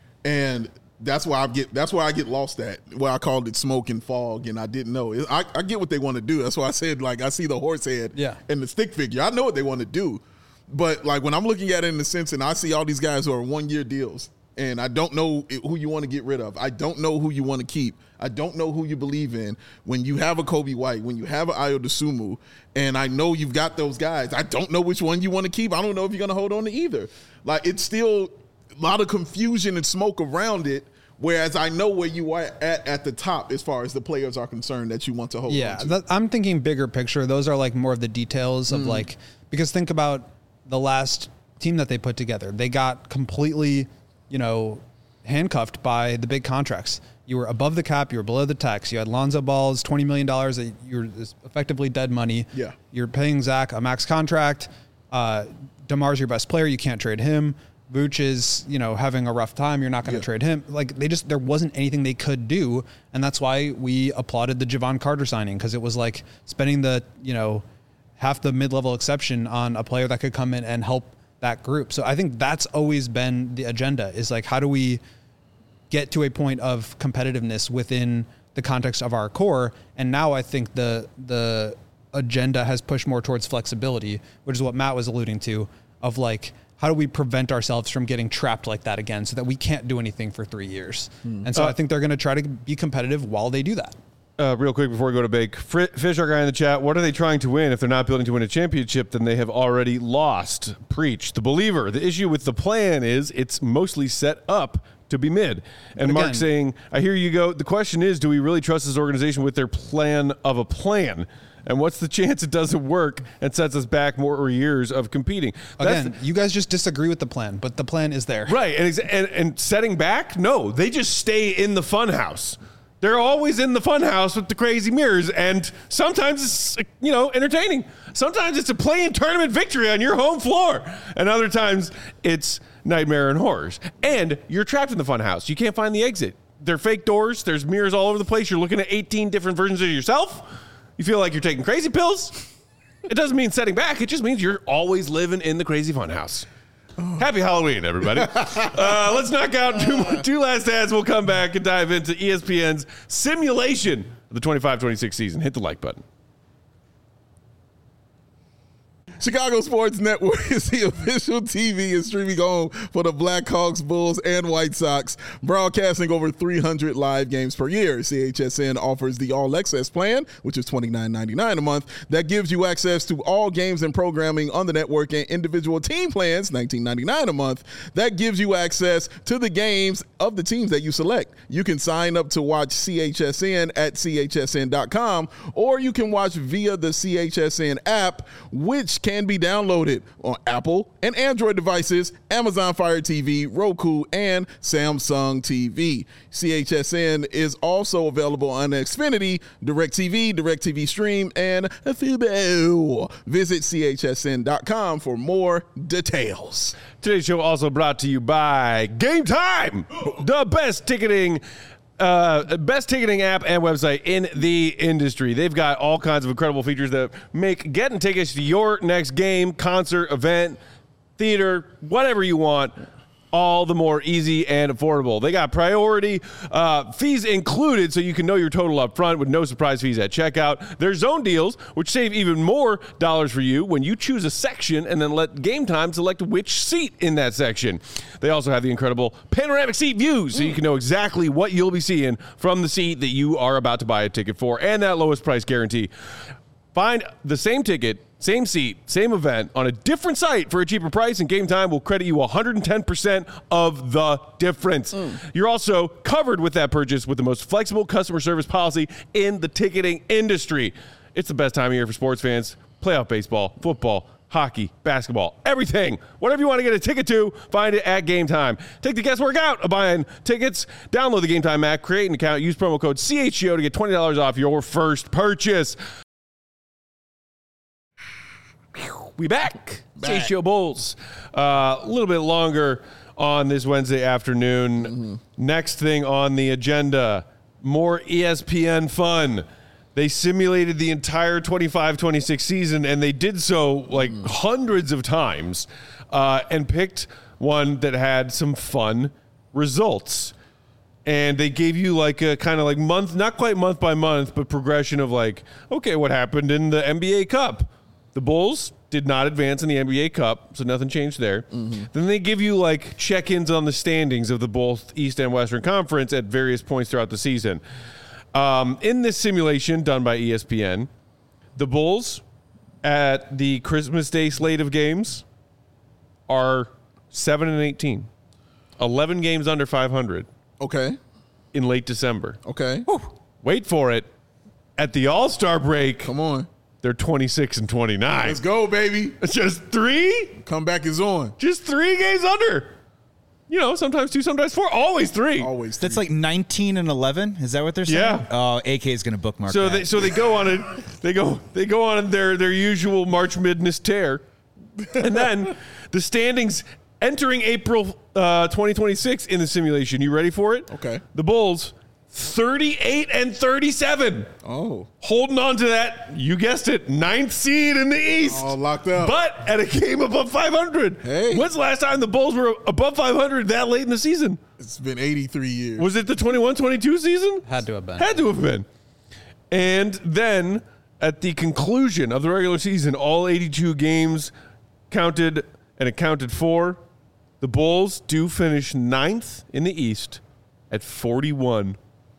Speaker 3: and that's why I get lost at. Where I called it smoke and fog, and I didn't know. I get what they want to do. That's why I said like I see the horse head and the stick figure. I know what they want to do, but like when I'm looking at it in the sense, and I see all these guys who are 1-year deals, and I don't know who you want to get rid of. I don't know who you want to keep. I don't know who you believe in. When you have a Kobe White, when you have an Ayo Dosunmu, and I know you've got those guys, I don't know which one you want to keep. I don't know if you're going to hold on to either. Like, it's still a lot of confusion and smoke around it, whereas I know where you are at the top as far as the players are concerned that you want to hold on to.
Speaker 4: I'm thinking bigger picture. Those are like more of the details of like, because think about the last team that they put together. They got completely, handcuffed by the big contracts. You were above the cap. You were below the tax. You had Lonzo Ball's $20 million. You're effectively dead money.
Speaker 3: Yeah.
Speaker 4: You're paying Zach a max contract. DeMar's your best player. You can't trade him. Vooch is, having a rough time. You're not going to trade him. Like there wasn't anything they could do. And that's why we applauded the Javon Carter signing. Cause it was like spending the, half the mid-level exception on a player that could come in and help that group. So I think that's always been the agenda, is like, how do we get to a point of competitiveness within the context of our core? And now I think the agenda has pushed more towards flexibility, which is what Matt was alluding to, of like, how do we prevent ourselves from getting trapped like that again so that we can't do anything for 3 years? And so I think they're going to try to be competitive while they do that.
Speaker 1: Real quick before we go to Bake, Fish, our guy in the chat, what are they trying to win? If they're not building to win a championship, then they have already lost. Preach. The believer. The issue with the plan is it's mostly set up to be mid. And Mark saying, I hear you go. The question is, do we really trust this organization with their plan of a plan? And what's the chance it doesn't work and sets us back more years of competing?
Speaker 4: You guys just disagree with the plan, but the plan is there.
Speaker 1: Right. And setting back? No, they just stay in the fun house. They're always in the fun house with the crazy mirrors. And sometimes it's, entertaining. Sometimes it's a play-in tournament victory on your home floor. And other times it's nightmare and horrors. And you're trapped in the fun house. You can't find the exit. They're fake doors. There's mirrors all over the place. You're looking at 18 different versions of yourself. You feel like you're taking crazy pills. It doesn't mean setting back. It just means you're always living in the crazy fun house. Happy Halloween, everybody. Let's knock out two last ads. We'll come back and dive into ESPN's simulation of the 25-26 season. Hit the like button.
Speaker 3: Chicago Sports Network is the official TV and streaming home for the Blackhawks, Bulls, and White Sox, broadcasting over 300 live games per year. CHSN offers the All Access plan, which is $29.99 a month. That gives you access to all games and programming on the network, and individual team plans, $19.99 a month. That gives you access to the games of the teams that you select. You can sign up to watch CHSN at chsn.com, or you can watch via the CHSN app, which can be downloaded on Apple and Android devices, Amazon Fire TV, Roku, and Samsung TV. CHSN is also available on Xfinity, DirecTV, DirecTV Stream, and Fubo. Visit chsn.com for more details.
Speaker 1: Today's show also brought to you by Game Time, the best ticketing app and website in the industry. They've got all kinds of incredible features that make getting tickets to your next game, concert, event, theater, whatever you want, all the more easy and affordable. They got priority fees included, so you can know your total up front with no surprise fees at checkout. There's zone deals, which save even more dollars for you when you choose a section and then let Game Time select which seat in that section. They also have the incredible panoramic seat views, so you can know exactly what you'll be seeing from the seat that you are about to buy a ticket for, and that lowest price guarantee. Find the same ticket, same seat, same event on a different site for a cheaper price, and Game Time will credit you 110% of the difference. You're also covered with that purchase with the most flexible customer service policy in the ticketing industry. It's the best time of year for sports fans. Playoff baseball, football, hockey, basketball, everything. Whatever you want to get a ticket to, find it at Game Time. Take the guesswork out of buying tickets. Download the Game Time app, create an account, use promo code CHGO to get $20 off your first purchase. We back. CHGO Bulls. A little bit longer on this Wednesday afternoon. Next thing on the agenda, more ESPN fun. They simulated the entire 25-26 season, and they did so like hundreds of times, and picked one that had some fun results. And they gave you like a kind of like month, not quite month by month, but progression of like, okay, what happened in the NBA Cup? The Bulls did not advance in the NBA Cup, so nothing changed there. Then they give you like check-ins on the standings of the both East and Western Conference at various points throughout the season. In this simulation done by ESPN, the Bulls at the Christmas Day slate of games are 7-18, 11 games under 500.
Speaker 3: Okay.
Speaker 1: In late December.
Speaker 3: Okay.
Speaker 1: Whew. Wait for it. At the All-Star break.
Speaker 3: Come on.
Speaker 1: They're 26-29.
Speaker 3: Let's go, baby.
Speaker 1: It's just 3?
Speaker 3: Comeback is on.
Speaker 1: Just 3 games under. You know, sometimes 2, sometimes 4. Always 3.
Speaker 3: Always 3.
Speaker 2: That's like 19-11. Is that what they're saying?
Speaker 1: Yeah.
Speaker 2: Oh, AK is going to bookmark
Speaker 1: so
Speaker 2: that.
Speaker 1: they go on it. They go on their usual March Madness tear, And then the standings entering April 2026 in the simulation. You ready for it?
Speaker 3: Okay.
Speaker 1: The Bulls, 38-37.
Speaker 3: Oh.
Speaker 1: Holding on to that, you guessed it, 9th seed in the East.
Speaker 3: All locked up.
Speaker 1: But at a game above 500.
Speaker 3: Hey.
Speaker 1: When's the last time the Bulls were above 500 that late in the season?
Speaker 3: It's been 83 years.
Speaker 1: Was it the 21-22 season?
Speaker 4: Had to have been.
Speaker 1: Had to have been. And then at the conclusion of the regular season, all 82 games counted and accounted for. The Bulls do finish 9th in the East at 41-41.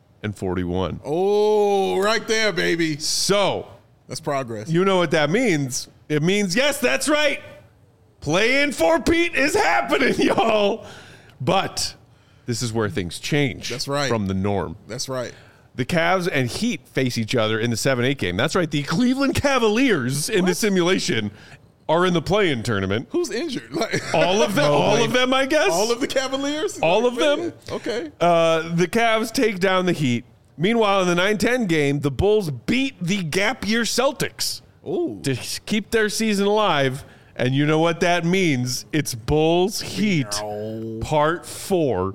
Speaker 3: Oh, right there, baby.
Speaker 1: So
Speaker 3: That's progress.
Speaker 1: you know what that means. It means, yes, that's right. Play-in for Pete is happening, y'all. But this is where things change.
Speaker 3: That's right.
Speaker 1: From the norm.
Speaker 3: That's right.
Speaker 1: The Cavs and Heat face each other in the 7-8 game. That's right. The Cleveland Cavaliers in the simulation are in the play-in tournament.
Speaker 3: Who's injured? Like,
Speaker 1: All of them. All of them, I guess.
Speaker 3: all of the Cavaliers?
Speaker 1: All of them.
Speaker 3: Okay.
Speaker 1: The Cavs take down the Heat. Meanwhile, in the 9-10 game, the Bulls beat the gap year Celtics to keep their season alive. And you know what that means? It's Bulls Heat Part 4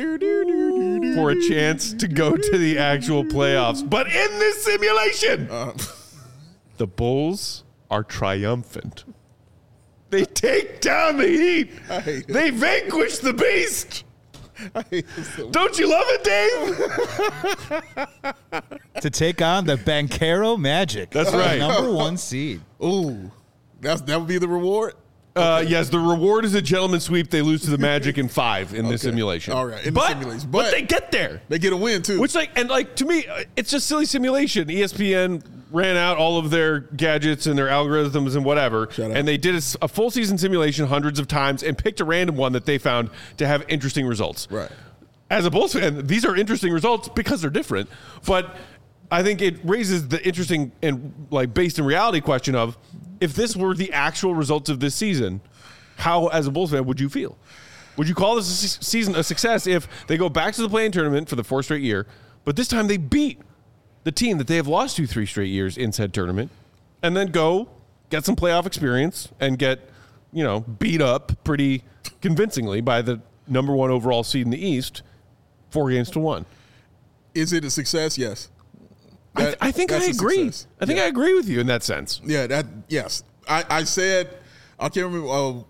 Speaker 1: for a chance to go to the actual playoffs. But in this simulation, the Bulls are triumphant. They take down the Heat. They vanquish the Beast. Don't you love it, Dave?
Speaker 2: To take on the Banchero Magic.
Speaker 1: That's right.
Speaker 2: Number 1 seed.
Speaker 3: Ooh. That would be the reward?
Speaker 1: Yes, the reward is a gentleman's sweep. They lose to the Magic in 5 in the simulation.
Speaker 3: All right, in the simulation.
Speaker 1: But they get there.
Speaker 3: They get a win, too.
Speaker 1: Which, to me, it's just silly simulation. ESPN ran out all of their gadgets and their algorithms and whatever, and they did a full season simulation hundreds of times and picked a random one that they found to have interesting results.
Speaker 3: Right.
Speaker 1: As a Bulls fan, these are interesting results because they're different, but I think it raises the interesting and based in reality question of, if this were the actual results of this season, how, as a Bulls fan, would you feel? Would you call this season a success if they go back to the play-in tournament for the 4th straight year, but this time they beat the team that they have lost to 3 straight years in said tournament, and then go get some playoff experience and get, beat up pretty convincingly by the number 1 overall seed in the East 4-1?
Speaker 3: Is it a success? Yes.
Speaker 1: I think I agree. I think I agree with you in that sense.
Speaker 3: Yeah, yes. I said, I can't remember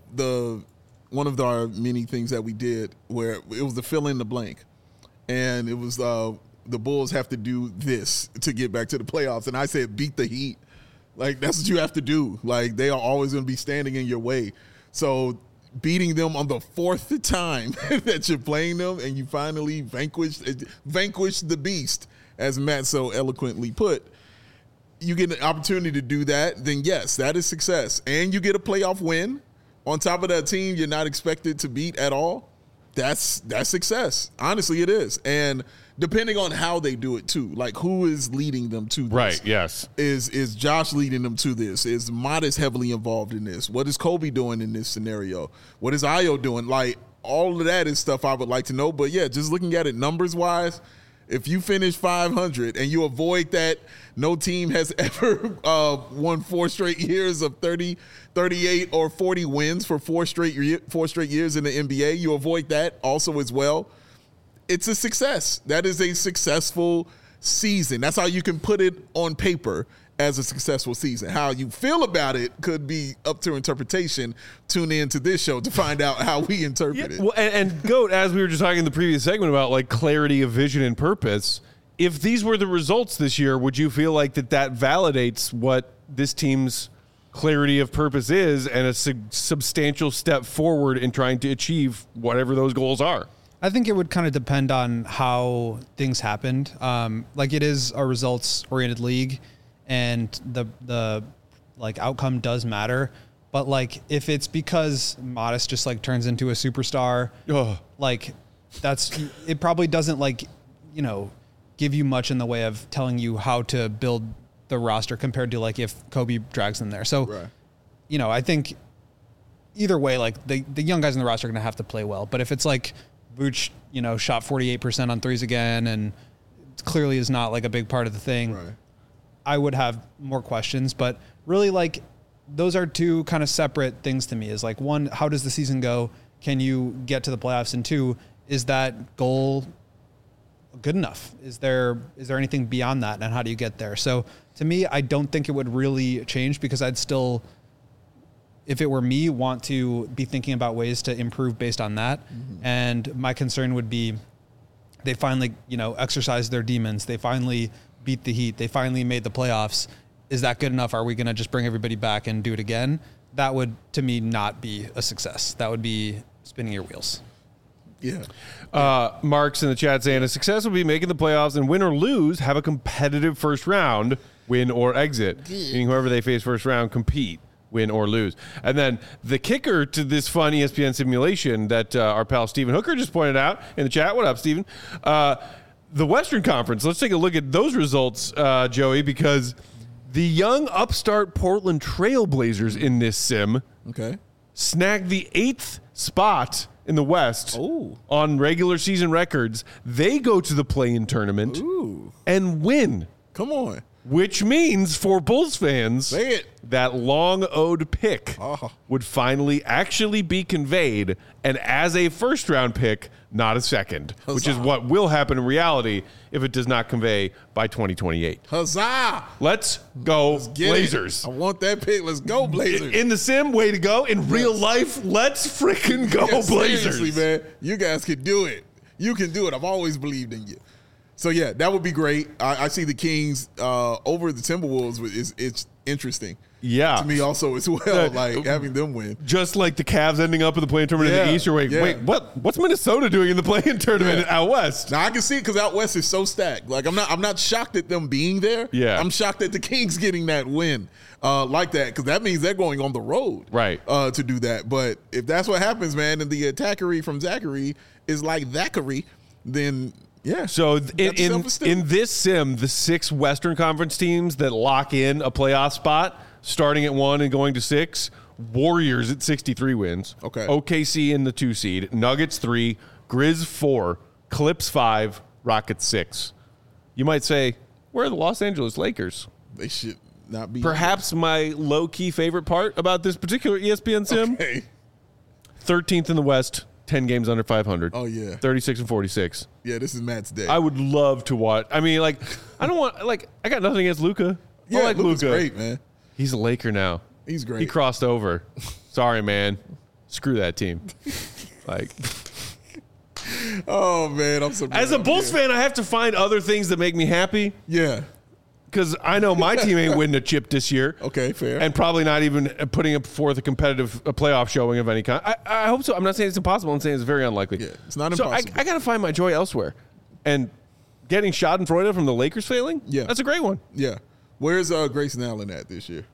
Speaker 3: one of our many things that we did where it was the fill in the blank. And it was the Bulls have to do this to get back to the playoffs. And I said, beat the Heat. That's what you have to do. They are always going to be standing in your way. So beating them on the 4th time that you're playing them and you finally vanquish the beast, as Matt so eloquently put, you get an opportunity to do that, then yes, that is success. And you get a playoff win on top of that team you're not expected to beat at all. That's success. Honestly, it is. And depending on how they do it too, who is leading them to this?
Speaker 1: Right, yes.
Speaker 3: Is Josh leading them to this? Is Modest heavily involved in this? What is Kobe doing in this scenario? What is Ayo doing? All of that is stuff I would like to know. But yeah, just looking at it numbers-wise, if you finish 500 and you avoid that no team has ever won 4 straight years of 30, 38, or 40 wins for 4 straight years in the NBA, you avoid that also as well. It's a success. That is a successful season. That's how you can put it on paper as a successful season. How you feel about it could be up to interpretation. Tune in to this show to find out how we interpret it.
Speaker 1: Well, and Goat, as we were just talking in the previous segment about clarity of vision and purpose, if these were the results this year, would you feel that validates what this team's clarity of purpose is and a substantial step forward in trying to achieve whatever those goals are?
Speaker 4: I think it would kind of depend on how things happened. It is a results-oriented league, and the outcome does matter. But if it's because Modest just turns into a superstar, it probably doesn't give you much in the way of telling you how to build the roster compared to if Kobe drags them there. So,
Speaker 3: right.
Speaker 4: I think either way, the young guys in the roster are going to have to play well. But if it's Vooch, shot 48% on threes again, and clearly is not a big part of the thing,
Speaker 3: right.
Speaker 4: I would have more questions. But really, those are two kind of separate things to me. Is like, one, how does the season go? Can you get to the playoffs? And two, is that goal good enough? Is there anything beyond that? And how do you get there? So to me, I don't think it would really change, because I'd still, if it were me, want to be thinking about ways to improve based on that. Mm-hmm. And my concern would be, they finally, exercised their demons. They finally beat the Heat. They finally made the playoffs. Is that good enough? Are we going to just bring everybody back and do it again? That would, to me, not be a success. That would be spinning your wheels.
Speaker 3: Yeah.
Speaker 1: Mark's in the chat saying a success would be making the playoffs, and win or lose, have a competitive first round, win or exit. Meaning whoever they face first round, compete, win or lose. And then the kicker to this fun ESPN simulation that our pal Stephen Hooker just pointed out in the chat. What up, Stephen? The Western Conference. Let's take a look at those results, Joey, because the young upstart Portland Trailblazers in this sim snagged the 8th spot in the West on regular season records. They go to the play-in tournament and win.
Speaker 3: Come on.
Speaker 1: Which means for Bulls fans, that long-owed pick would finally actually be conveyed, and as a first-round pick, not a second, which is what will happen in reality if it does not convey by 2028.
Speaker 3: Huzzah!
Speaker 1: Let's go Blazers.
Speaker 3: I want that pick. Let's go Blazers.
Speaker 1: In the sim, way to go. In real life, let's freaking go Blazers.
Speaker 3: Seriously, man. You guys can do it. You can do it. I've always believed in you. So, yeah, that would be great. I see the Kings over the Timberwolves. It's interesting.
Speaker 1: Yeah.
Speaker 3: To me also as well, like having them win.
Speaker 1: Just like the Cavs ending up in the play-in tournament in the East. Or wait, what's Minnesota doing in the play-in tournament out West?
Speaker 3: Now, I can see it because out West is so stacked. Like, I'm not shocked at them being there.
Speaker 1: Yeah.
Speaker 3: I'm shocked at the Kings getting that win like that, because that means they're going on the road to do that. But if that's what happens, man, and the attackery from Zachary is like Thackeray, then – yeah.
Speaker 1: So in this sim, the 6 Western Conference teams that lock in a playoff spot, starting at 1 and going to 6, Warriors at 63 wins.
Speaker 3: Okay.
Speaker 1: OKC in the 2 seed, Nuggets 3, Grizz 4, Clips 5, Rockets 6. You might say, where are the Los Angeles Lakers?
Speaker 3: They should not be.
Speaker 1: Perhaps my low-key favorite part about this particular ESPN sim. 13th in the West. 10 games under 500.
Speaker 3: Oh, yeah.
Speaker 1: 36 and 46.
Speaker 3: Yeah, this is Matt's day.
Speaker 1: I would love to watch. I mean, like, I got nothing against Luka.
Speaker 3: Yeah,
Speaker 1: I like
Speaker 3: Luka's
Speaker 1: Luka.
Speaker 3: great, man.
Speaker 1: He's a Laker now.
Speaker 3: He's great.
Speaker 1: He crossed over. Sorry, man. Screw that team.
Speaker 3: Oh, man, I'm so
Speaker 1: as a Bulls fan, I have to find other things that make me happy.
Speaker 3: Yeah.
Speaker 1: Because I know my team ain't winning a chip this year.
Speaker 3: Okay, fair.
Speaker 1: And probably not even putting up forth a competitive playoff showing of any kind. I hope so. I'm not saying it's impossible. I'm saying it's very unlikely.
Speaker 3: Yeah, it's not impossible.
Speaker 1: So I got to find my joy elsewhere. And getting Schadenfreude from the Lakers failing, that's a great one.
Speaker 3: Yeah. Where's Grayson Allen at this year?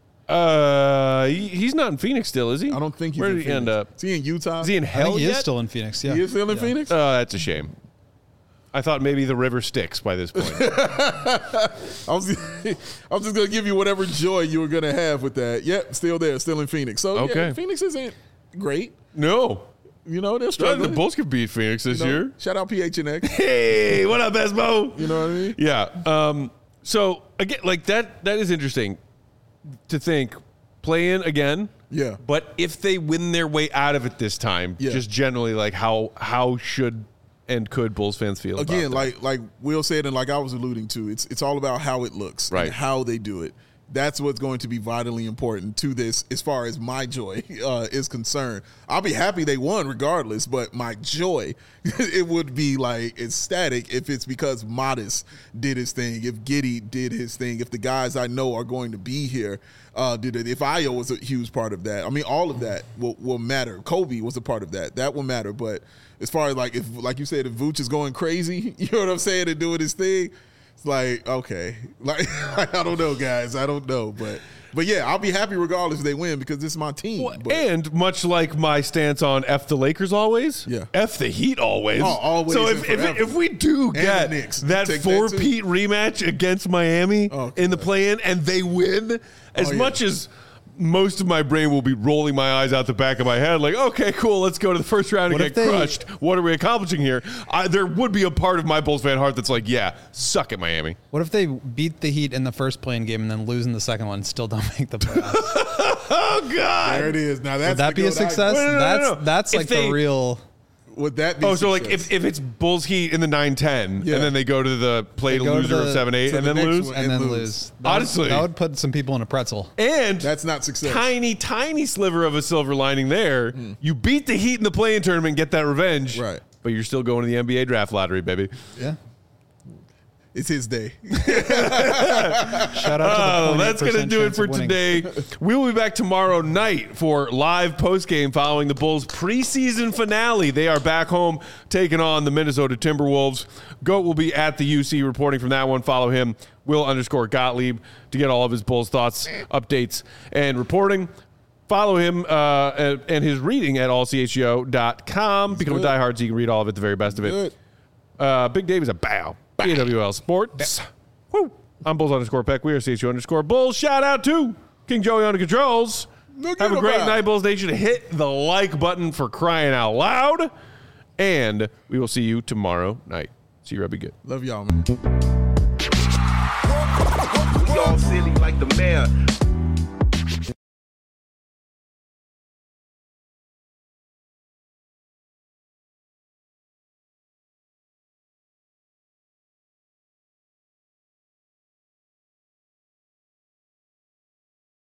Speaker 1: He's not in Phoenix still, is he?
Speaker 3: I don't think he's
Speaker 1: Where
Speaker 3: in
Speaker 1: did he
Speaker 3: Phoenix.
Speaker 1: end up?
Speaker 3: Is he in Utah?
Speaker 1: Is he in hell
Speaker 2: I think he
Speaker 1: yet?
Speaker 2: is still in Phoenix, yeah.
Speaker 3: He is still in Phoenix?
Speaker 1: Oh, that's a shame. I thought maybe the river Styx by this point.
Speaker 3: I was just going to give you whatever joy you were going to have with that. Yep, still there, still in Phoenix. So, yeah, Phoenix isn't great.
Speaker 1: No.
Speaker 3: They're struggling.
Speaker 1: The Bulls could beat Phoenix this year.
Speaker 3: Shout out PHNX.
Speaker 1: Hey, what up, Esmo?
Speaker 3: You know what I mean?
Speaker 1: Yeah. So, again, like that is interesting to think. Play in again.
Speaker 3: Yeah.
Speaker 1: But if they win their way out of it this time, just generally, like how should and could Bulls fans feel
Speaker 3: again,
Speaker 1: about that?
Speaker 3: like Will said, and like I was alluding to, it's all about how it looks,
Speaker 1: right?
Speaker 3: And how they do it. That's what's going to be vitally important to this, as far as my joy is concerned. I'll be happy they won regardless, but my joy, it would be like ecstatic if it's because Modest did his thing, if Giddey did his thing, if the guys I know are going to be here did it, if Ayo was a huge part of that. I mean, all of that will matter. Kobe was a part of that. That will matter. But as far as like, if, like you said, if Vooch is going crazy, you know what I'm saying, and doing his thing, it's like, okay. Like, I don't know, guys. I don't know. But yeah, I'll be happy regardless if they win because this is my team.
Speaker 1: Well, and much like my stance on F the Lakers always, F the Heat always.
Speaker 3: Oh, always.
Speaker 1: So if we do get that 4-peat rematch against Miami in the play-in and they win, as much as most of my brain will be rolling my eyes out the back of my head like, okay, cool, let's go to the first round and get crushed. What are we accomplishing here? There would be a part of my Bulls fan heart that's like, yeah, suck it, Miami.
Speaker 4: What if they beat the Heat in the first play-in game and then lose in the second one and still don't make the playoffs?
Speaker 1: Oh, God.
Speaker 3: There it is. Now
Speaker 4: Would that be a success?
Speaker 1: No.
Speaker 4: That's like the real...
Speaker 3: Would that be
Speaker 1: so
Speaker 3: success?
Speaker 1: like if it's Bulls Heat in the 9-10 and then they go to the loser of 7-8 and then lose?
Speaker 4: And then lose.
Speaker 1: Honestly.
Speaker 4: That would put some people in a pretzel.
Speaker 1: And
Speaker 3: that's not success.
Speaker 1: Tiny sliver of a silver lining there. You beat the Heat in the play-in tournament and get that revenge.
Speaker 3: Right.
Speaker 1: But you're still going to the NBA draft lottery, baby.
Speaker 4: Yeah.
Speaker 3: It's his day.
Speaker 4: Shout out to the
Speaker 1: that's going to do it for today. We will be back tomorrow night for live postgame following the Bulls preseason finale. They are back home taking on the Minnesota Timberwolves. Goat will be at the UC reporting from that one. Follow him, Will_Gottlieb, to get all of his Bulls thoughts, updates, and reporting. Follow him and his reading at allchgo.com. Become a diehard so you can read all of it, the very best of it. Big Dave is a bow. AWL Sports. Woo. I'm Bulls_Peck. We are CHU_Bulls. Shout out to King Joey on the controls. Have a great night, Bulls Nation. Hit the like button for crying out loud. And we will see you tomorrow night. See you, Robbie. Good.
Speaker 3: Love y'all, man.
Speaker 8: Y'all silly like the mayor.